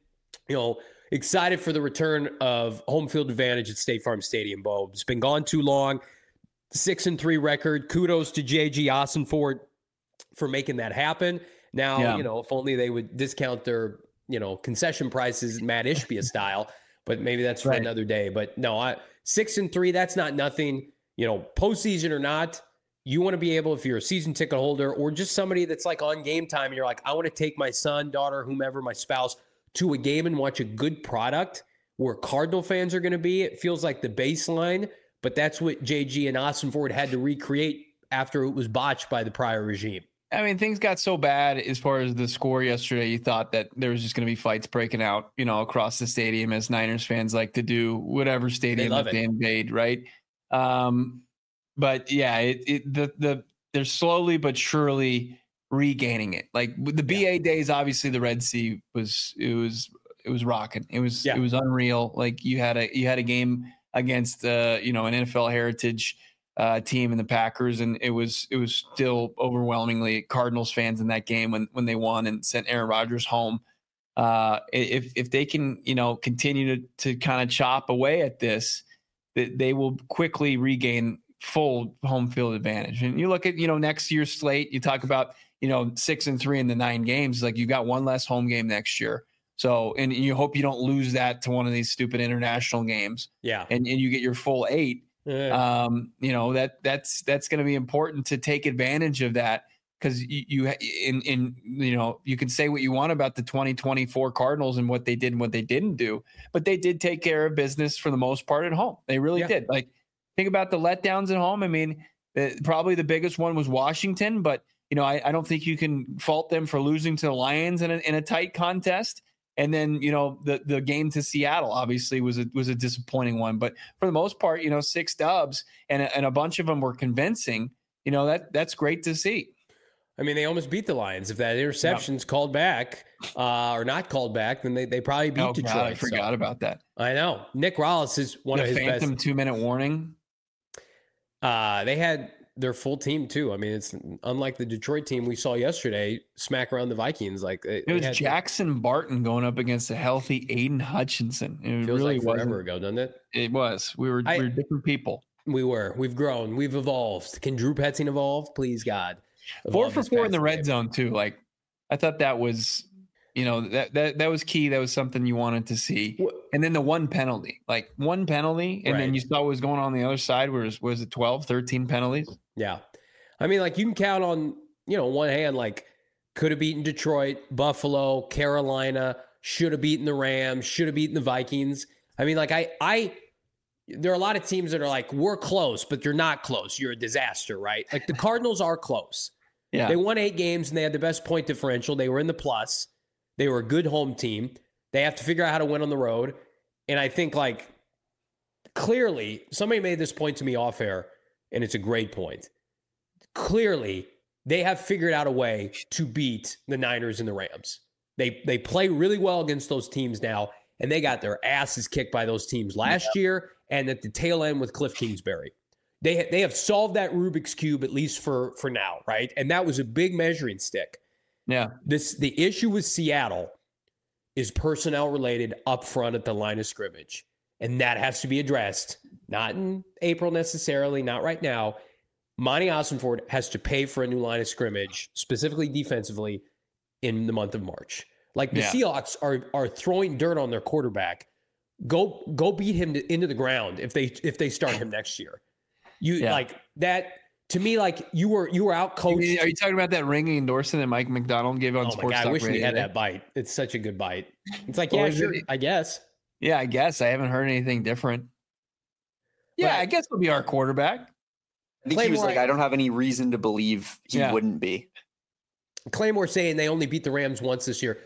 excited for the return of home field advantage at State Farm Stadium, Bo. It's been gone too long. 6-3 record. Kudos to J.G. Ossenford for making that happen. Now, if only they would discount their, concession prices, Matt Ishbia style, but maybe that's for another day. But no, 6-3, that's not nothing. Postseason or not, you want to be able, if you're a season ticket holder or just somebody that's like on game time, and you're like, I want to take my son, daughter, whomever, my spouse to a game and watch a good product where Cardinal fans are going to be. It feels like the baseline, but that's what JG and Ossenford had to recreate after it was botched by the prior regime. I mean, things got so bad as far as the score yesterday. You thought that there was just going to be fights breaking out, across the stadium, as Niners fans like to do, whatever stadium that they invade, right? But yeah, they're slowly but surely regaining it. Like the BA days, obviously the Red Sea was rocking. It was unreal. Like you had a game against an NFL heritage team in the Packers, and it was still overwhelmingly Cardinals fans in that game when they won and sent Aaron Rodgers home. If they can continue to kind of chop away at this, they will quickly regain full home field advantage. And you look at next year's slate. You talk about 6-3 in the 9 games. Like you've got one less home game next year. So, and you hope you don't lose that to one of these stupid international games. Yeah, and you get your full 8. That's going to be important to take advantage of that, because you can say what you want about the 2024 Cardinals and what they did and what they didn't do, but they did take care of business for the most part at home. They really did. Like, think about the letdowns at home. I mean, probably the biggest one was Washington, but I don't think you can fault them for losing to the Lions in a tight contest. And then, the game to Seattle obviously was a disappointing one. But for the most part, 6 dubs and a bunch of them were convincing. That's great to see. I mean, they almost beat the Lions. If that interception's called back or not called back, then they probably beat Detroit. God, I forgot about that. I know. Nick Rallis is one of his best. Phantom 2-minute warning. They had their full team too. I mean, it's unlike the Detroit team we saw yesterday smack around the Vikings. Like it was Jackson Barton going up against a healthy Aiden Hutchinson. It feels really like forever ago, doesn't it? It was. We were different people. We were. We've grown. We've evolved. Can Drew Petzing evolve? Please, God. 4 for 4 in the red zone too. Like I thought that was, that was key. That was something you wanted to see. And then the one penalty, and then you saw what was going on the other side. Was it 12, 13 penalties? Yeah. I mean, like you can count on, one hand, like could have beaten Detroit, Buffalo, Carolina, should have beaten the Rams, should have beaten the Vikings. I mean, like there are a lot of teams that are like, we're close, but you're not close. You're a disaster, right? Like the Cardinals are close. Yeah. They won 8 games and they had the best point differential. They were in the plus. They were a good home team. They have to figure out how to win on the road. And I think like clearly somebody made this point to me off air, and it's a great point. Clearly they have figured out a way to beat the Niners and the Rams. They play really well against those teams now, and they got their asses kicked by those teams last year and at the tail end with Cliff Kingsbury. They have solved that Rubik's Cube, at least for now, right? And that was a big measuring stick. Yeah. The issue with Seattle is personnel related up front at the line of scrimmage. And that has to be addressed. Not in April necessarily, not right now. Monty Ossenford has to pay for a new line of scrimmage, specifically defensively, in the month of March. Like the Seahawks are throwing dirt on their quarterback. Go beat him into the ground if they start him next year. Like that to me, like you were out coached. Are you talking about that ringing endorsement that Mike McDonald gave on Sports Talk Radio? I wish we had that bite. It's such a good bite. It's like, sure, I guess. Yeah, I guess. I haven't heard anything different. Yeah, I guess he'll be our quarterback. I think he was like, I don't have any reason to believe he wouldn't be. Claymore saying they only beat the Rams once this year.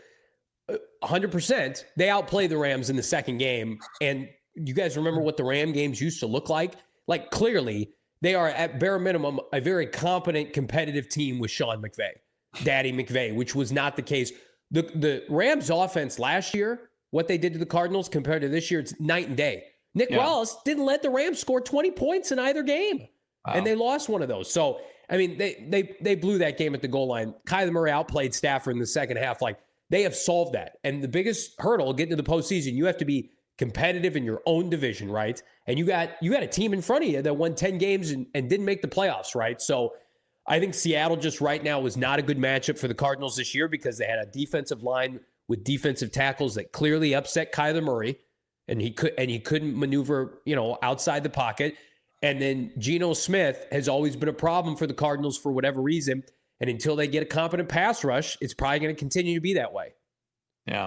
100%. They outplayed the Rams in the second game. And you guys remember what the Ram games used to look like? Like, clearly, they are, at bare minimum, a very competent, competitive team with Sean McVay, Daddy McVay, which was not the case. The Rams offense last year, what they did to the Cardinals compared to this year, it's night and day. Nick Wallace didn't let the Rams score 20 points in either game. Wow. And they lost one of those. So, I mean, they blew that game at the goal line. Kyler Murray outplayed Stafford in the second half. Like, they have solved that. And the biggest hurdle getting to the postseason, you have to be competitive in your own division, right? And you got a team in front of you that won 10 games and didn't make the playoffs, right? So I think Seattle just right now was not a good matchup for the Cardinals this year because they had a defensive line with defensive tackles that clearly upset Kyler Murray, and he couldn't maneuver, outside the pocket. And then Geno Smith has always been a problem for the Cardinals for whatever reason. And until they get a competent pass rush, it's probably going to continue to be that way. Yeah.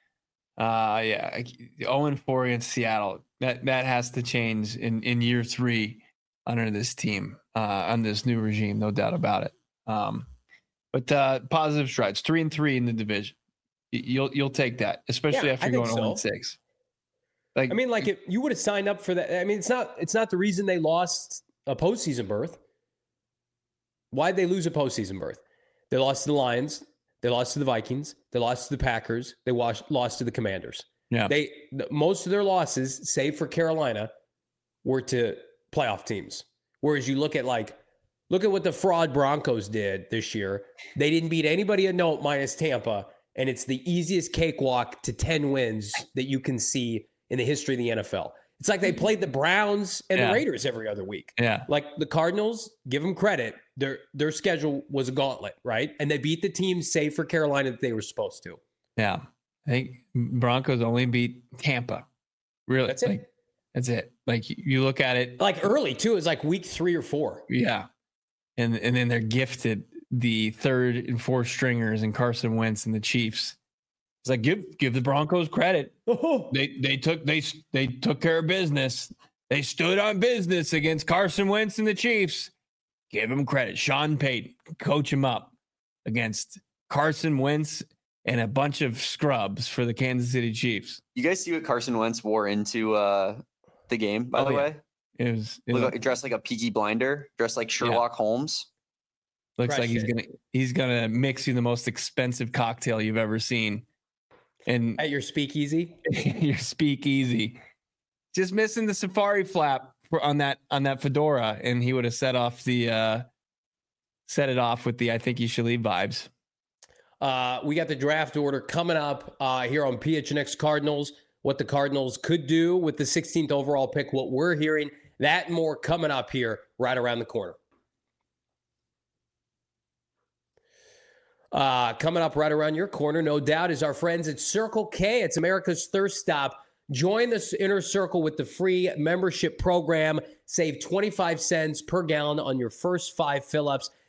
0-4 against Seattle. That has to change in year 3 under this team, on this new regime, no doubt about it. But positive strides, 3-3 in the division. You'll take that, especially after going 0-6. Like, I mean, like if you would have signed up for that. I mean, it's not the reason they lost a postseason berth. Why'd they lose a postseason berth? They lost to the Lions. They lost to the Vikings. They lost to the Packers. They lost to the Commanders. Yeah. Most of their losses, save for Carolina, were to playoff teams. Whereas you look at what the fraud Broncos did this year. They didn't beat anybody of note minus Tampa, and it's the easiest cakewalk to 10 wins that you can see in the history of the NFL. It's like they played the Browns and the Raiders every other week. Yeah. Like the Cardinals, give them credit. Their schedule was a gauntlet, right? And they beat the teams, save for Carolina, that they were supposed to. Yeah. I think Broncos only beat Tampa. Really? That's it. That's it. Like you look at it. Like early too. It's like week 3 or 4. Yeah. And then they're gifted the 3rd and 4th stringers and Carson Wentz and the Chiefs. It's like give the Broncos credit. They took care of business. They stood on business against Carson Wentz and the Chiefs. Give him credit. Sean Payton, coach him up against Carson Wentz and a bunch of scrubs for the Kansas City Chiefs. You guys see what Carson Wentz wore into the game, by the way? It was dressed like a Peaky Blinder, dressed like Sherlock Holmes. Looks like he's gonna mix you the most expensive cocktail you've ever seen. And at your speakeasy, just missing the safari flap on that fedora, and he would have set it off with the "I think you should leave" vibes. We got the draft order coming up here on PHNX Cardinals. What the Cardinals could do with the 16th overall pick, what we're hearing, that and more coming up here right around the corner. Coming up right around your corner, no doubt, is our friends at Circle K. It's America's thirst stop. Join the Inner Circle with the free membership program. Save 25 cents per gallon on your first 5 fill-ups.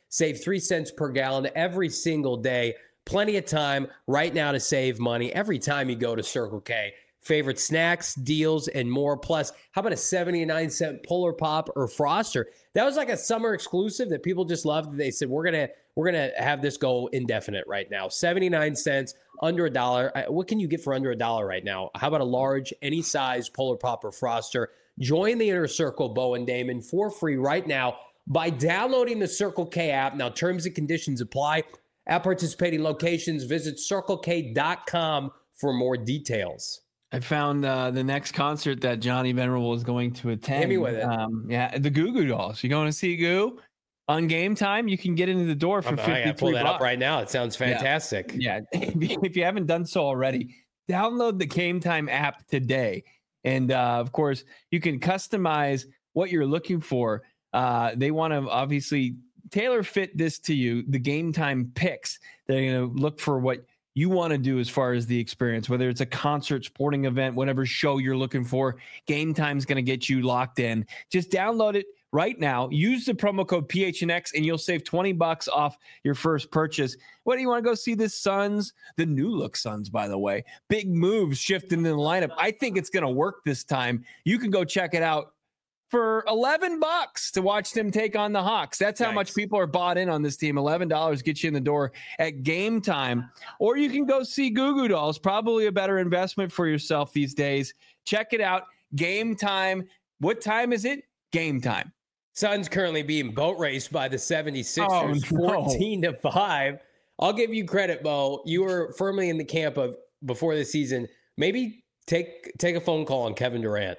Save 3 cents per gallon every single day. Plenty of time right now to save money every time you go to Circle K. Favorite snacks, deals, and more. Plus, how about a 79-cent Polar Pop or Froster? That was like a summer exclusive that people just loved. They said, we're gonna have this go indefinite right now. 79 cents, under $1. What can you get for under $1 right now? How about a large, any size Polar Pop or Froster? Join the Inner Circle, Bo and Damon, for free right now by downloading the Circle K app. Now, terms and conditions apply. At participating locations, visit CircleK.com for more details. I found the next concert that Johnny Venerable is going to attend. Hit me with it. Yeah, the Goo Goo Dolls. You going to see Goo? On Game Time, you can get into the door for $53. I pull that up right now. It sounds fantastic. Yeah. If you haven't done so already, download the Game Time app today. And of course, you can customize what you're looking for. They want to obviously tailor fit this to you, the Game Time picks. They're going to look for what you want to do as far as the experience, whether it's a concert, sporting event, whatever show you're looking for. Game Time's going to get you locked in. Just download it right now. Use the promo code PHNX and you'll save $20 off your first purchase. What do you want to go see the Suns? The new look Suns, by the way. Big moves shifting in the lineup. I think it's going to work this time. You can go check it out for $11 to watch them take on the Hawks. That's how much people are bought in on this team. $11 gets you in the door at Game Time. Or you can go see Goo Goo Dolls, probably a better investment for yourself these days. Check it out. Game Time. What time is it? Game Time. Suns currently being boat raced by the 76ers, 14-5. I'll give you credit, Bo. You were firmly in the camp of, before the season, maybe take a phone call on Kevin Durant.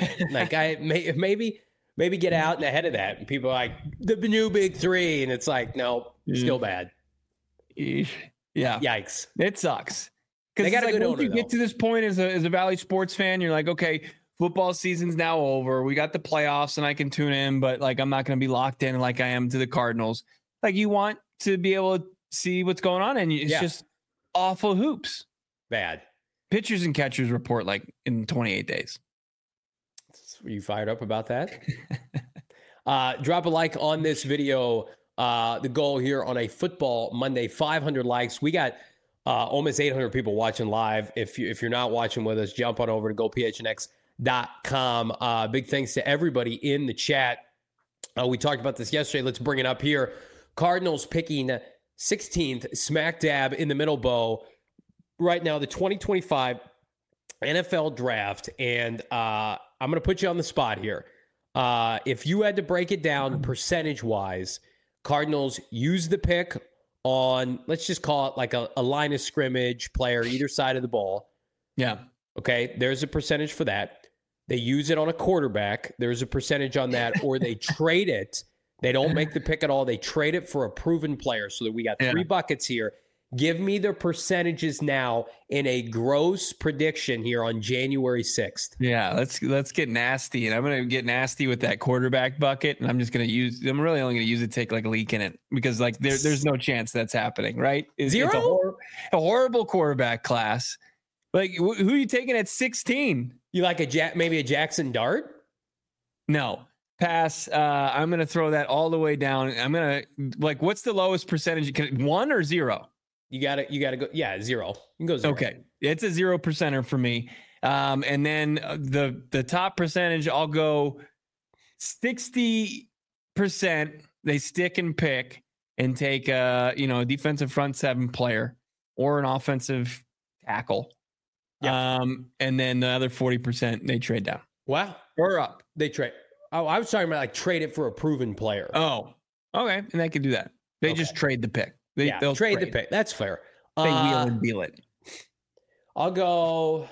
Maybe get out and ahead of that. And people are like, the new big three. And it's like, no, still bad. Yeah. Yikes. It sucks. Because they got a good owner, once you get to this point as a Valley sports fan, you're like, okay, football season's now over. We got the playoffs and I can tune in, but like, I'm not going to be locked in like I am to the Cardinals. Like, you want to be able to see what's going on. And it's just awful hoops. Bad. Pitchers and catchers report like in 28 days. Are you fired up about that? Drop a like on this video. The goal here on a Football Monday, 500 likes. We got almost 800 people watching live. If you're not watching with us, jump on over to gophnx.com. Big thanks to everybody in the chat. We talked about this yesterday. Let's bring it up here. Cardinals picking 16th, smack dab in the middle, Bo. Right now, the 2025 NFL draft, and I'm going to put you on the spot here. If you had to break it down percentage-wise, Cardinals use the pick on, let's just call it like a line of scrimmage player either side of the ball. Yeah. Okay, there's a percentage for that. They use it on a quarterback. There's a percentage on that, or they trade it. They don't make the pick at all. They trade it for a proven player, so that we got three buckets here. Give me the percentages now in a gross prediction here on January 6th. Yeah, let's get nasty. And I'm going to get nasty with that quarterback bucket. And I'm really only going to use it to take like a leak in it because like there's no chance that's happening, right? Zero? It's a horrible quarterback class. Like who are you taking at 16? You like maybe a Jackson Dart? No. Pass. I'm going to throw that all the way down. I'm going to like, what's the lowest percentage? 1 or 0? You gotta go. Yeah, 0. You can go 0. Okay, it's a 0% for me. And then the top percentage, I'll go 60%. They stick and pick and take a defensive front seven player or an offensive tackle. Yeah. And then the other 40% they trade down. Wow. Or up. They trade. Oh, I was talking about like trade it for a proven player. Oh, okay. And they can do that. They just trade the pick. They'll trade the pick. That's fair. They wheel and deal it. I'll go.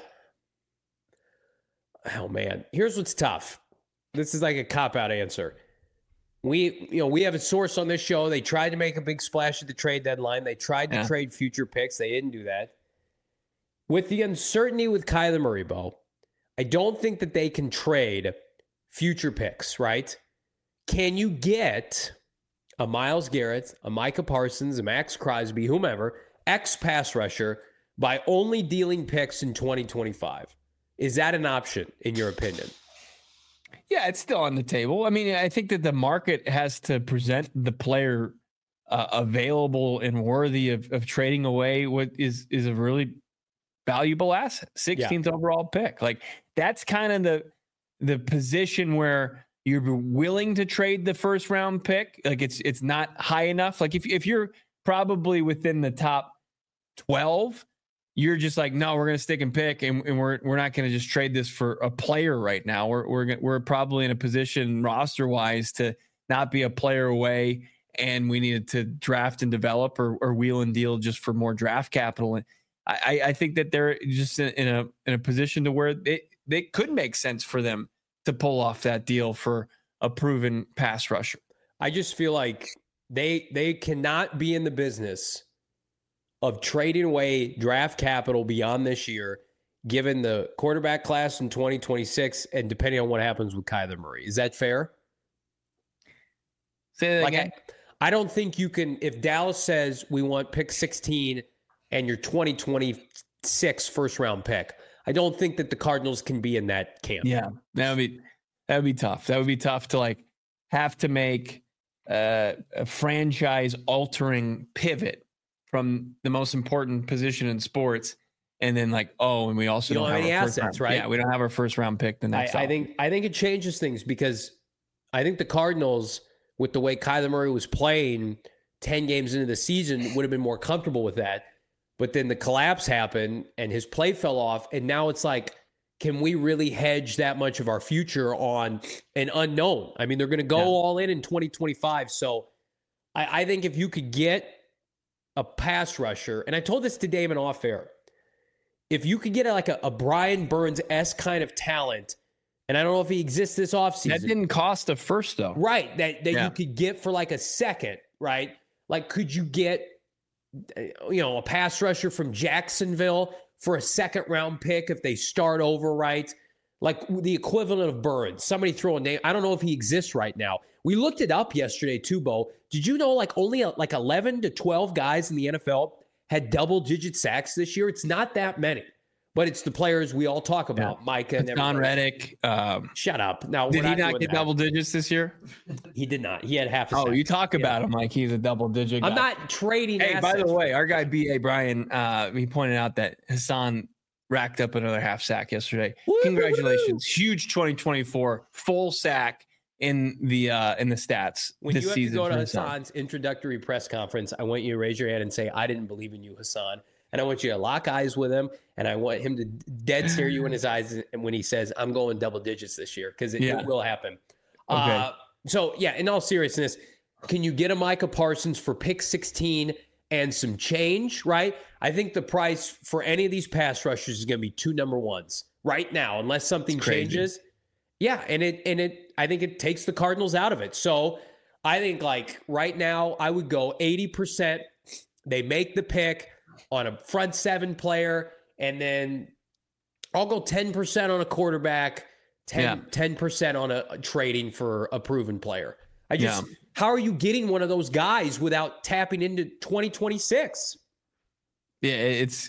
Oh man, here's what's tough. This is like a cop-out answer. We have a source on this show. They tried to make a big splash at the trade deadline. They tried to trade future picks. They didn't do that. With the uncertainty with Kyler Murray, Bo, I don't think that they can trade future picks, right? Can you get a Myles Garrett, a Micah Parsons, a Max Crosby, whomever, ex-pass rusher, by only dealing picks in 2025? Is that an option, in your opinion? Yeah, it's still on the table. I mean, I think that the market has to present the player available and worthy of trading away what is a really valuable asset, 16th overall pick. Like that's kind of the position where you're willing to trade the first round pick. Like it's not high enough. Like if you're probably within the top 12, you're just like, no, we're going to stick and pick, and we're not going to just trade this for a player right now. We're probably in a position roster wise to not be a player away, and we needed to draft and develop or wheel and deal just for more draft capital. And I think that they're just in a position to where they could make sense for them to pull off that deal for a proven pass rusher. I just feel like they cannot be in the business of trading away draft capital beyond this year, given the quarterback class in 2026 and depending on what happens with Kyler Murray. Is that fair? Say that again. I don't think you can, if Dallas says we want pick 16 and your 2026 first round pick, I don't think that the Cardinals can be in that camp. Yeah, that would be tough. That would be tough to like have to make a franchise altering pivot from the most important position in sports, and then like, and we also don't have any our first assets, round. right? Yeah, we don't have our first round pick the next. I think it changes things because I think the Cardinals, with the way Kyler Murray was playing 10 games into the season, would have been more comfortable with that. But then the collapse happened and his play fell off, and now it's like, can we really hedge that much of our future on an unknown? I mean, they're going to go all in 2025. So I think if you could get a pass rusher, and I told this to Damon off air, if you could get a Brian Burns-esque kind of talent, and I don't know if he exists this offseason. That didn't cost a first, though. Right, that you could get for like a second, right? Like, could you get, a pass rusher from Jacksonville for a second round pick if they start over, right? Like the equivalent of Burns. Somebody throw a name. I don't know if he exists right now. We looked it up yesterday too, Bo. Did you know like only 11 to 12 guys in the NFL had double-digit sacks this year? It's not that many, but it's the players we all talk about, Micah and John Reddick. Shut up. Now, did he not get double digits this year? He did not. He had half a sack. Oh, you talk about him like he's a double-digit guy. I'm not trading Hey, assets. by the way, our guy B.A. Brian, he pointed out that Hassan racked up another half sack yesterday. Congratulations. Huge 2024 full sack in the stats when this you have season. To go to Hassan's introductory press conference, I want you to raise your hand and say, I didn't believe in you, Hassan. And I want you to lock eyes with him, and I want him to dead stare you in his eyes and when he says, I'm going double digits this year, because it will happen. Okay. So, in all seriousness, can you get a Micah Parsons for pick 16 and some change, right? I think the price for any of these pass rushers is going to be 2 number ones right now, unless something changes. Yeah, and I think it takes the Cardinals out of it. So I think like right now I would go 80%. They make the pick on a front seven player, and then I'll go 10% on a quarterback, 10% on a trading for a proven player. How are you getting one of those guys without tapping into 2026? Yeah, it's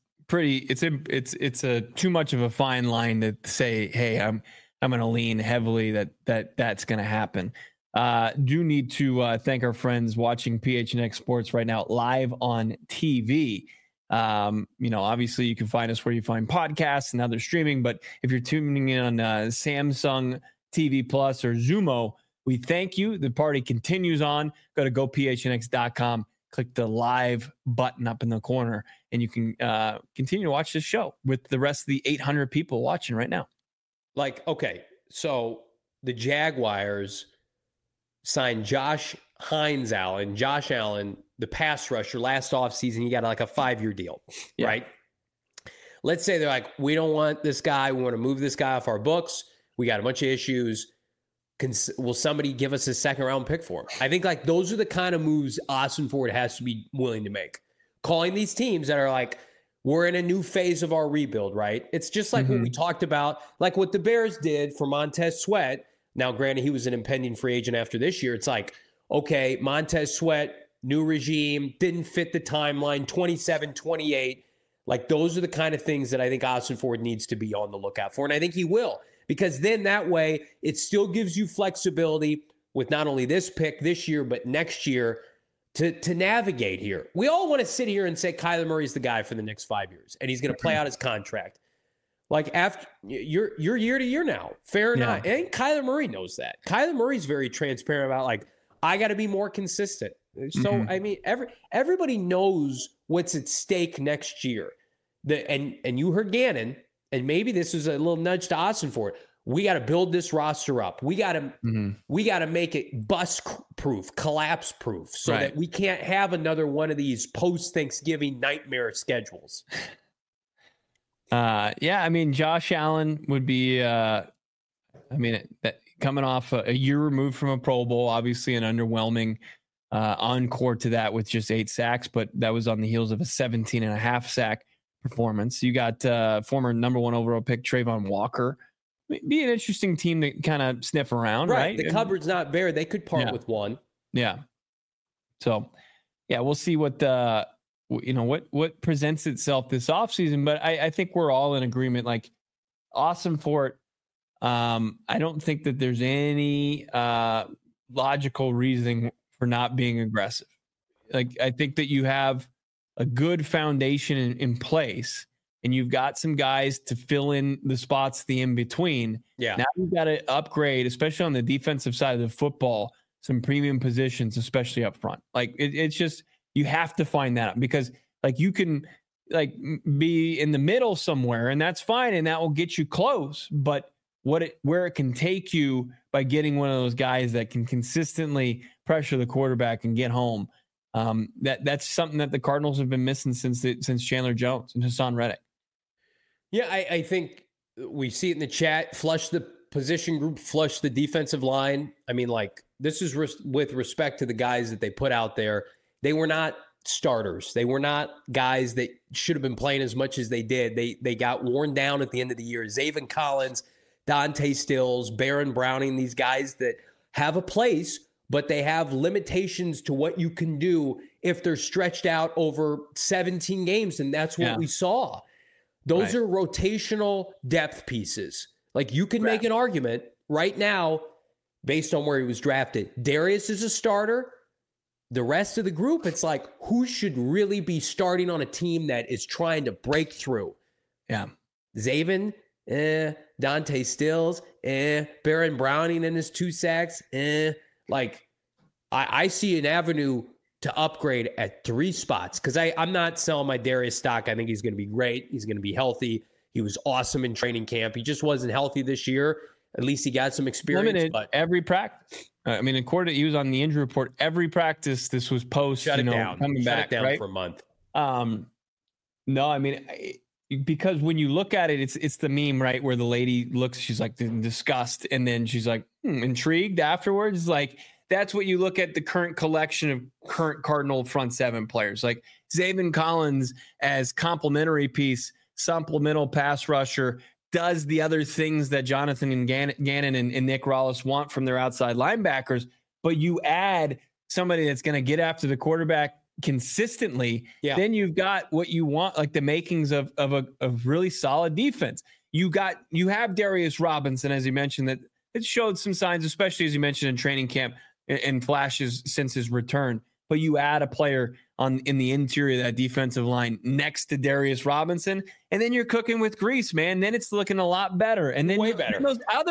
a too much of a fine line to say, hey, I'm going to lean heavily that's going to happen. Do need to thank our friends watching PHNX Sports right now live on TV. Obviously you can find us where you find podcasts and other streaming, but if you're tuning in on Samsung TV Plus or Xumo, we thank you. The party continues on. Go to gophnx.com, click the live button up in the corner, and you can continue to watch this show with the rest of the 800 people watching right now. Like, okay, so the Jaguars signed Josh Allen, the pass rusher, last offseason. He got like a 5-year deal, right? Let's say they're like, we don't want this guy. We want to move this guy off our books. We got a bunch of issues. Will somebody give us a second-round pick for him? I think like those are the kind of moves Austin Ford has to be willing to make. Calling these teams that are like, we're in a new phase of our rebuild, right? It's just like what we talked about, like what the Bears did for Montez Sweat. Now, granted, he was an impending free agent after this year. It's like, okay, Montez Sweat, new regime, didn't fit the timeline, 27, 28. Like those are the kind of things that I think Austin Ford needs to be on the lookout for. And I think he will, because then that way it still gives you flexibility with not only this pick this year, but next year to navigate here. We all want to sit here and say Kyler Murray's the guy for the next 5 years, and he's going to play out his contract. Like after you're year to year now, fair enough. And Kyler Murray knows that. Kyler Murray's very transparent about like, I got to be more consistent. So I mean, everybody knows what's at stake next year. And you heard Gannon, and maybe this is a little nudge to Austin for it. We got to build this roster up. We got to make it bust proof, collapse proof, so that we can't have another one of these post Thanksgiving nightmare schedules. Yeah, I mean, Josh Allen would be, coming off a year removed from a Pro Bowl, obviously an underwhelming encore to that with just 8 sacks, but that was on the heels of a 17.5 sack performance. You got former number 1 overall pick Trayvon Walker. Be an interesting team to kind of sniff around, right? The cupboard's not bare. They could part with one. Yeah. So, yeah, we'll see what what presents itself this offseason. But I think we're all in agreement. Like, awesome for it. I don't think that there's any logical reasoning for not being aggressive. Like, I think that you have a good foundation in place, and you've got some guys to fill in the spots, the in between. Yeah. Now you've got to upgrade, especially on the defensive side of the football, some premium positions, especially up front. Like it's just, you have to find that out, because like you can like be in the middle somewhere, and that's fine, and that will get you close. But where it can take you by getting one of those guys that can consistently pressure the quarterback and get home. That's something that the Cardinals have been missing since Chandler Jones and Hassan Reddick. Yeah, I think we see it in the chat. Flush the position group, flush the defensive line. I mean, like, this is with respect to the guys that they put out there. They were not starters. They were not guys that should have been playing as much as they did. They got worn down at the end of the year. Zaven Collins, Dante Stills, Baron Browning, these guys that have a place, but they have limitations to what you can do if they're stretched out over 17 games, and that's what we saw. Those are rotational depth pieces. Like, you can make an argument right now based on where he was drafted. Darius is a starter. The rest of the group, it's like, who should really be starting on a team that is trying to break through? Yeah. Zaven, Dante Stills, Baron Browning in his 2 sacks, Like, I see an avenue to upgrade at 3 spots, because I'm not selling my Darius stock. I think he's going to be great. He's going to be healthy. He was awesome in training camp. He just wasn't healthy this year. At least he got some experience. Limited but every practice. I mean, according to, he was on the injury report every practice. This was post, shut it down. coming shut back it down right? for a month. No, I mean, because when you look at it, it's the meme, right, where the lady looks, she's like in disgust, and then she's like intrigued afterwards. Like, that's what you look at the current collection of current Cardinal front 7 players, like Zaven Collins as complementary piece, supplemental pass rusher, does the other things that Jonathan and Gannon and Nick Rollis want from their outside linebackers, but you add somebody that's going to get after the quarterback consistently, then you've got what you want, like the makings of a really solid defense. You have Darius Robinson, as you mentioned, that it showed some signs, especially as you mentioned in training camp and flashes since his return. But you add a player in the interior of that defensive line next to Darius Robinson, and then you're cooking with grease, man. Then it's looking a lot better. And then way better.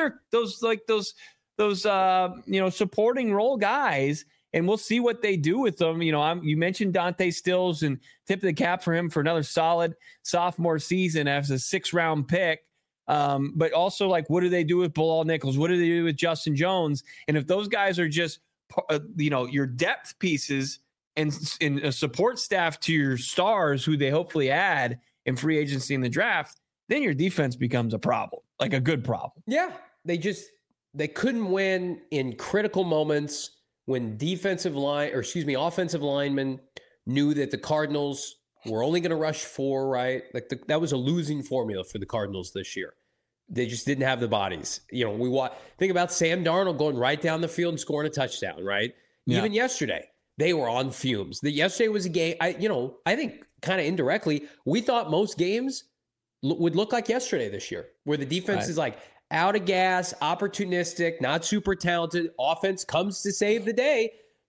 Those supporting role guys, and we'll see what they do with them. You mentioned Dante Stills, and tip of the cap for him for another solid sophomore season as a 6th-round pick. But also, like, what do they do with Bilal Nichols? What do they do with Justin Jones? And if those guys are just, your depth pieces and a support staff to your stars, who they hopefully add in free agency in the draft, then your defense becomes a problem, like a good problem. Yeah, they couldn't win in critical moments when offensive linemen knew that the Cardinals were only going to rush 4, right? Like that was a losing formula for the Cardinals this year. They just didn't have the bodies. Think about Sam Darnold going right down the field and scoring a touchdown, right? Yeah. Even yesterday, they were on fumes. Yesterday was a game, I think kind of indirectly, we thought most games would look like yesterday this year, where the defense is like out of gas, opportunistic, not super talented. Offense comes to save the day.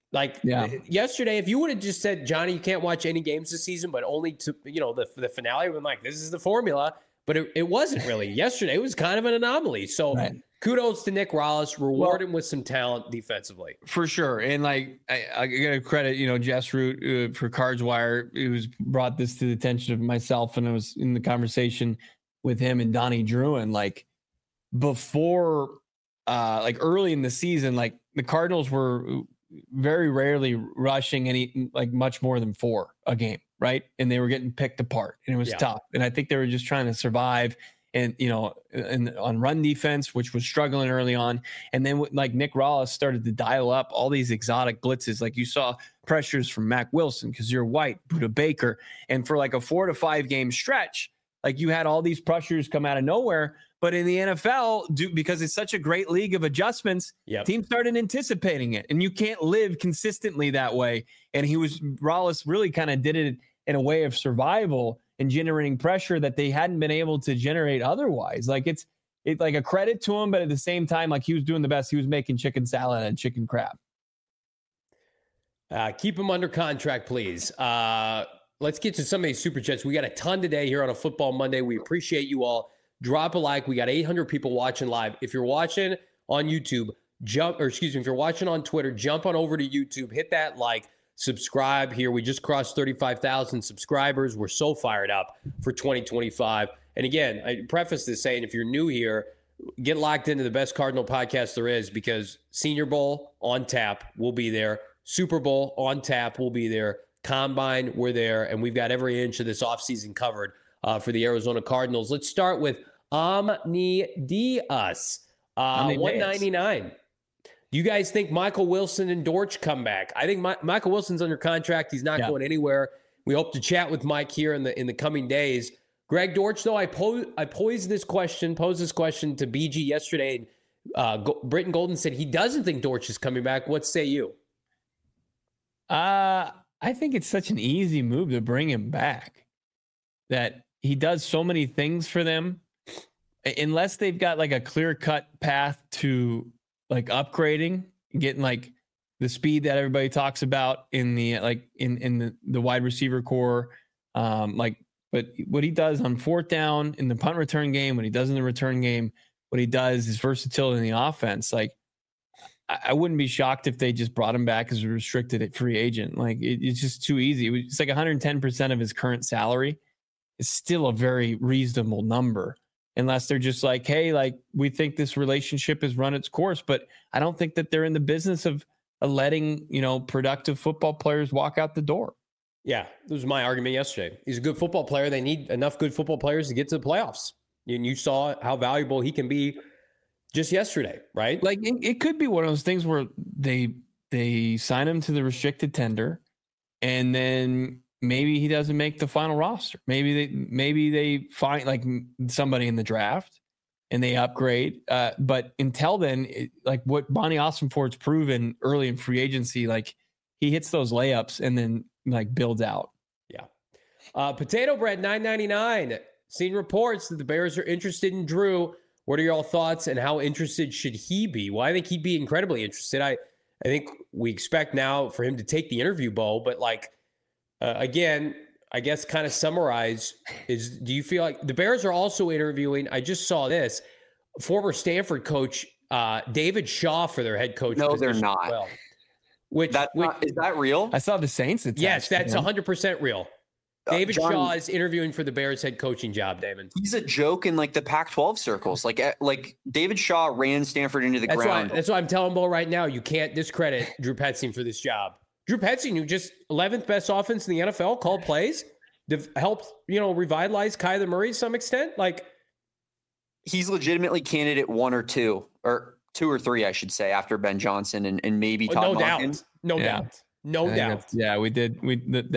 Like Yeah. yesterday, if you would have just said, Johnny, you can't watch any games this season, but only to, the finale, we're like, this is the formula. But it wasn't really. Yesterday, it was kind of an anomaly. So kudos to Nick Rallis. Reward him with some talent defensively. For sure. And like, I got to credit, Jess Root for Cards Wire, who's brought this to the attention of myself. And I was in the conversation with him and Donnie Druin, like before, like early in the season, like the Cardinals were very rarely rushing any, like much more than 4 a game. Right. And they were getting picked apart and it was tough. And I think they were just trying to survive and, on run defense, which was struggling early on. And then like Nick Rallis started to dial up all these exotic blitzes. Like you saw pressures from Mac Wilson, Kazir White, Budda Baker. And for like a 4 to 5 game stretch, like you had all these pressures come out of nowhere. But in the NFL, because it's such a great league of adjustments, teams started anticipating it. And you can't live consistently that way. And Rallis really kind of did it in a way of survival and generating pressure that they hadn't been able to generate otherwise. Like it's like a credit to him, but at the same time, like he was doing the best. He was making chicken salad and chicken crab. Keep him under contract, please. Let's get to some of these super chats. We got a ton today here on a Football Monday. We appreciate you all. Drop a like. We got 800 people watching live. If you're watching on YouTube, if you're watching on Twitter, jump on over to YouTube, hit that like, subscribe here. We just crossed 35,000 subscribers. We're so fired up for 2025. And again, I preface this saying, if you're new here, get locked into the best Cardinal podcast there is, because Senior Bowl on tap, we'll be there. Super Bowl on tap, we'll be there. Combine, we're there. And we've got every inch of this offseason covered for the Arizona Cardinals. Let's start with Omni Diaz, 199. Do you guys think Michael Wilson and Dortch come back? I think Michael Wilson's under contract. He's not going anywhere. We hope to chat with Mike here in the coming days. Greg Dortch, though, I posed this question to BG yesterday. And Britton Golden said he doesn't think Dortch is coming back. What say you? I think it's such an easy move to bring him back, that he does so many things for them. Unless they've got like a clear-cut path to like upgrading, getting like the speed that everybody talks about in the in the wide receiver core, but what he does on 4th down in the punt return game, what he does in the return game, what he does is versatility in the offense. Like I wouldn't be shocked if they just brought him back as a restricted free agent. Like it's just too easy. It's like 110% of his current salary. It's still a very reasonable number. Unless they're just like, hey, like we think this relationship has run its course, but I don't think that they're in the business of letting, productive football players walk out the door. Yeah, that was my argument yesterday. He's a good football player. They need enough good football players to get to the playoffs. And you saw how valuable he can be just yesterday, right? Like it could be one of those things where they sign him to the restricted tender and then maybe he doesn't make the final roster. Maybe they find like somebody in the draft and they upgrade. But until then, like what Bonnie Ossenfort's proven early in free agency, like he hits those layups and then like builds out. Yeah. Potato Bread $9.99. Seen reports that the Bears are interested in Drew. What are your thoughts and how interested should he be? Well, I think he'd be incredibly interested. I think we expect now for him to take the interview, Bo, but like, again, I guess kind of summarize do you feel like the Bears are also interviewing, I just saw this, former Stanford coach David Shaw for their head coach? No, they're not. Well, is that real? I saw the Saints. Yes, that's 100% real. David Shaw is interviewing for the Bears head coaching job, Damon. He's a joke in like the Pac-12 circles. Like David Shaw ran Stanford into the ground. That's why I'm telling Bo right now, you can't discredit Drew Petzing for this job. Drew Petzing, who just 11th best offense in the NFL, called plays, helped, revitalize Kyler Murray to some extent. Like he's legitimately candidate 1 or 2 or 2 or 3, I should say, after Ben Johnson and maybe Todd Monken. No doubt. Yeah, we did. We did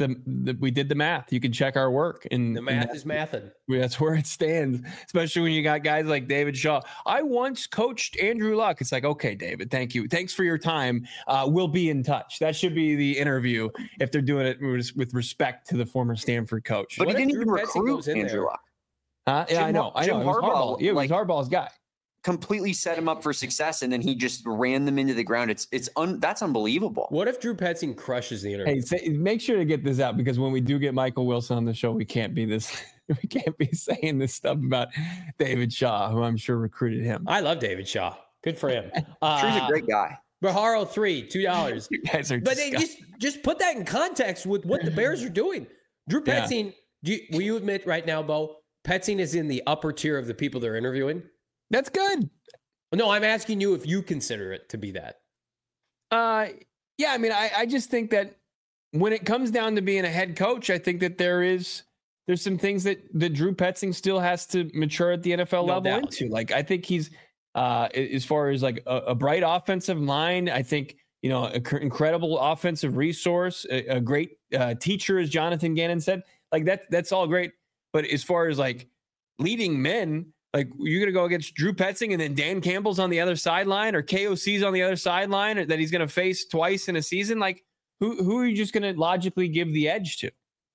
the math. You can check our work, and the math is mathin'. That's where it stands. Especially when you got guys like David Shaw. I once coached Andrew Luck. It's like, okay, David, thank you. Thanks for your time. We'll be in touch. That should be the interview if they're doing it with respect to the former Stanford coach. But he didn't even recruit Andrew Luck. Yeah, I know. It was Harbaugh's guy. completely set him up for success, and then he just ran them into the ground. That's unbelievable. What if Drew Petzing crushes the interview? Hey, make sure to get this out, because when we do get Michael Wilson on the show, we can't be saying this stuff about David Shaw, who I'm sure recruited him. I love David Shaw. Good for him. Drew's a great guy. Baharo 3, $2. You guys are But they just put that in context with what the Bears are doing. Drew Petzing, will you admit right now, Bo, Petzing is in the upper tier of the people they're interviewing? That's good. No, I'm asking you if you consider it to be that. Yeah, I mean, I just think that when it comes down to being a head coach, I think that there's some things that Drew Petzing still has to mature at the NFL level into. Like, I think he's as far as like a bright offensive line, I think, incredible offensive resource, a great teacher, as Jonathan Gannon said. Like that's all great. But as far as like leading men, like you're going to go against Drew Petzing and then Dan Campbell's on the other sideline, or KOC's on the other sideline, or that he's going to face twice in a season. Like who are you just going to logically give the edge to?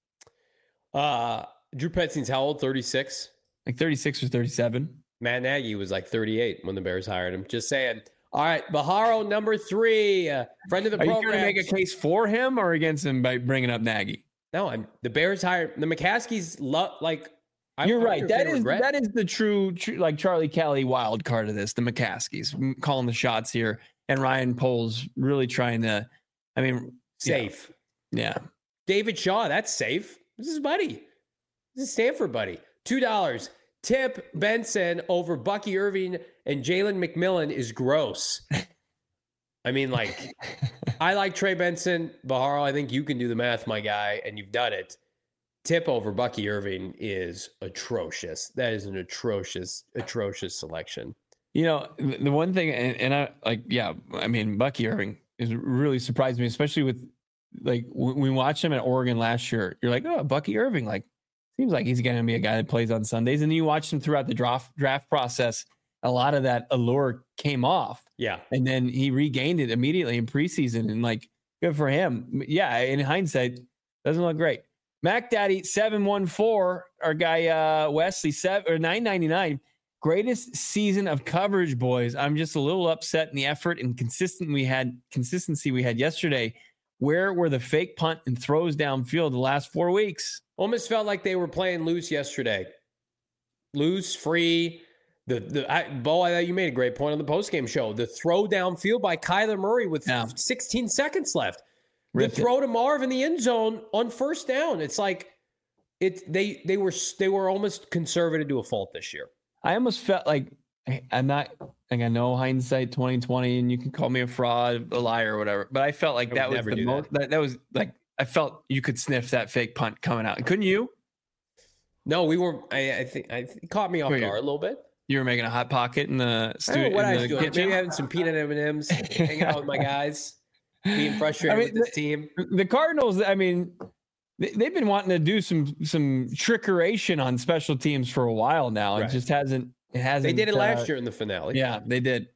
Drew Petzing's how old? 36? Like 36 or 37. Matt Nagy was like 38 when the Bears hired him. Just saying. All right, Baharo number 3, friend of the program. Are you going to make a case for him or against him by bringing up Nagy? No, the Bears hired the McCaskies. You're right. That is the true like Charlie Kelly wild card of this. The McCaskies calling the shots here, and Ryan Poles really trying to. I mean, safe. Yeah. David Shaw, that's safe. This is buddy. This is Stanford buddy. $2. Tip Benson over Bucky Irving and Jalen McMillan is gross. I mean, like, I like Trey Benson. Baharo, I think you can do the math, my guy, and you've done it. Tip over Bucky Irving is atrocious. That is an atrocious selection. The one thing, and I like, yeah, I mean, Bucky Irving is really surprised me, especially with like when we watched him at Oregon last year. You're like, oh, Bucky Irving, like, seems like he's going to be a guy that plays on Sundays. And then you watch him throughout the draft process. A lot of that allure came off. Yeah. And then he regained it immediately in preseason, and like, good for him. Yeah. In hindsight, doesn't look great. Mac Daddy 714, our guy, Wesley 999, greatest season of coverage, boys. I'm just a little upset in the effort and consistency we had yesterday. Where were the fake punt and throws downfield the last 4 weeks? Almost felt like they were playing loose yesterday. Loose, free. Bo, I thought you made a great point on the postgame show. The throw downfield by Kyler Murray with 16 seconds left. The throw to Marv in the end zone on first down. It's like they were almost conservative to a fault this year. I almost felt like I'm not like, I know hindsight 2020, and you can call me a fraud, a liar, or whatever. But I felt like that was the most. That was like, I felt you could sniff that fake punt coming out. Couldn't you? No, we were. I think it caught me off guard a little bit. You were making a hot pocket in the studio. I don't know what I was doing. Maybe having some peanut M&Ms, hanging out with my guys, being frustrated with this team. The Cardinals, I mean, they've been wanting to do some trickeration on special teams for a while now. Right. It just hasn't. They did it last year in the finale. Yeah, they did.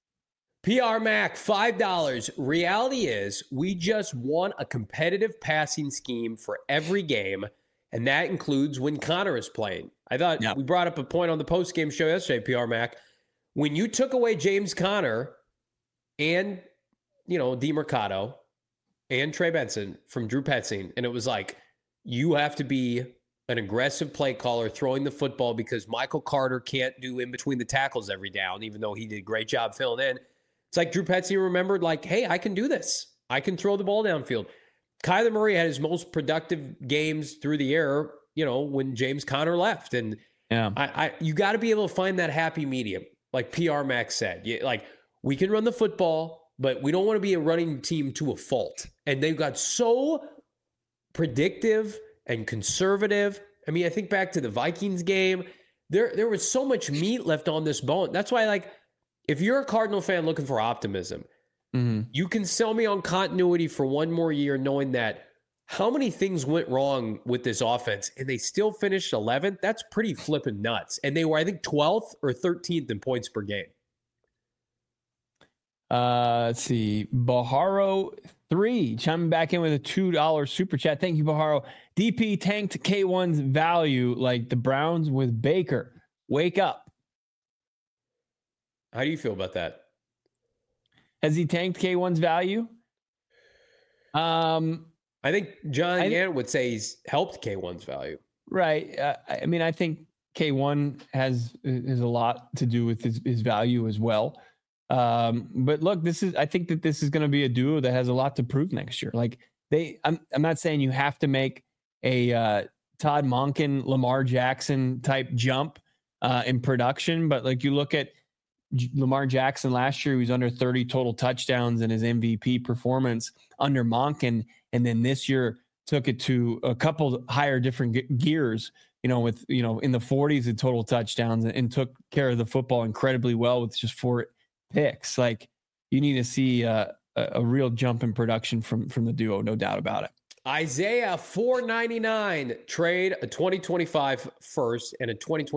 PR Mac, $5. Reality is we just want a competitive passing scheme for every game, and that includes when Connor is playing. I thought we brought up a point on the post-game show yesterday, PR Mac. When you took away James Conner and, DeMercado and Trey Benson from Drew Petzing, and it was like, you have to be an aggressive play caller throwing the football because Michael Carter can't do in between the tackles every down, even though he did a great job filling in. It's like Drew Petzing remembered, like, hey, I can do this. I can throw the ball downfield. Kyler Murray had his most productive games through the air, when James Conner left. And you got to be able to find that happy medium, like PR Max said. Like, we can run the football, but we don't want to be a running team to a fault. And they've got so predictive and conservative. I mean, I think back to the Vikings game. There was so much meat left on this bone. That's why, like, if you're a Cardinal fan looking for optimism, you can sell me on continuity for one more year, knowing that how many things went wrong with this offense and they still finished 11th. That's pretty flipping nuts. And they were, I think, 12th or 13th in points per game. Let's see. Baharo 3 chiming back in with a $2 super chat. Thank you, Baharo. DP tanked K1's value like the Browns with Baker. Wake up. How do you feel about that? Has he tanked K1's value? I think John Gant would say he's helped K1's value. Right. I mean, I think K1 has a lot to do with his value as well. But look, I think that this is going to be a duo that has a lot to prove next year. Like I'm not saying you have to make a Todd Monken, Lamar Jackson type jump in production, but like you look at Lamar Jackson last year, he was under 30 total touchdowns in his MVP performance under Monken, and then this year took it to a couple higher different gears, with in the 40s in total touchdowns, and took care of the football incredibly well with just 4 picks. Like you need to see a real jump in production from the duo, no doubt about it. Isaiah $4.99 trade a 2025 first and a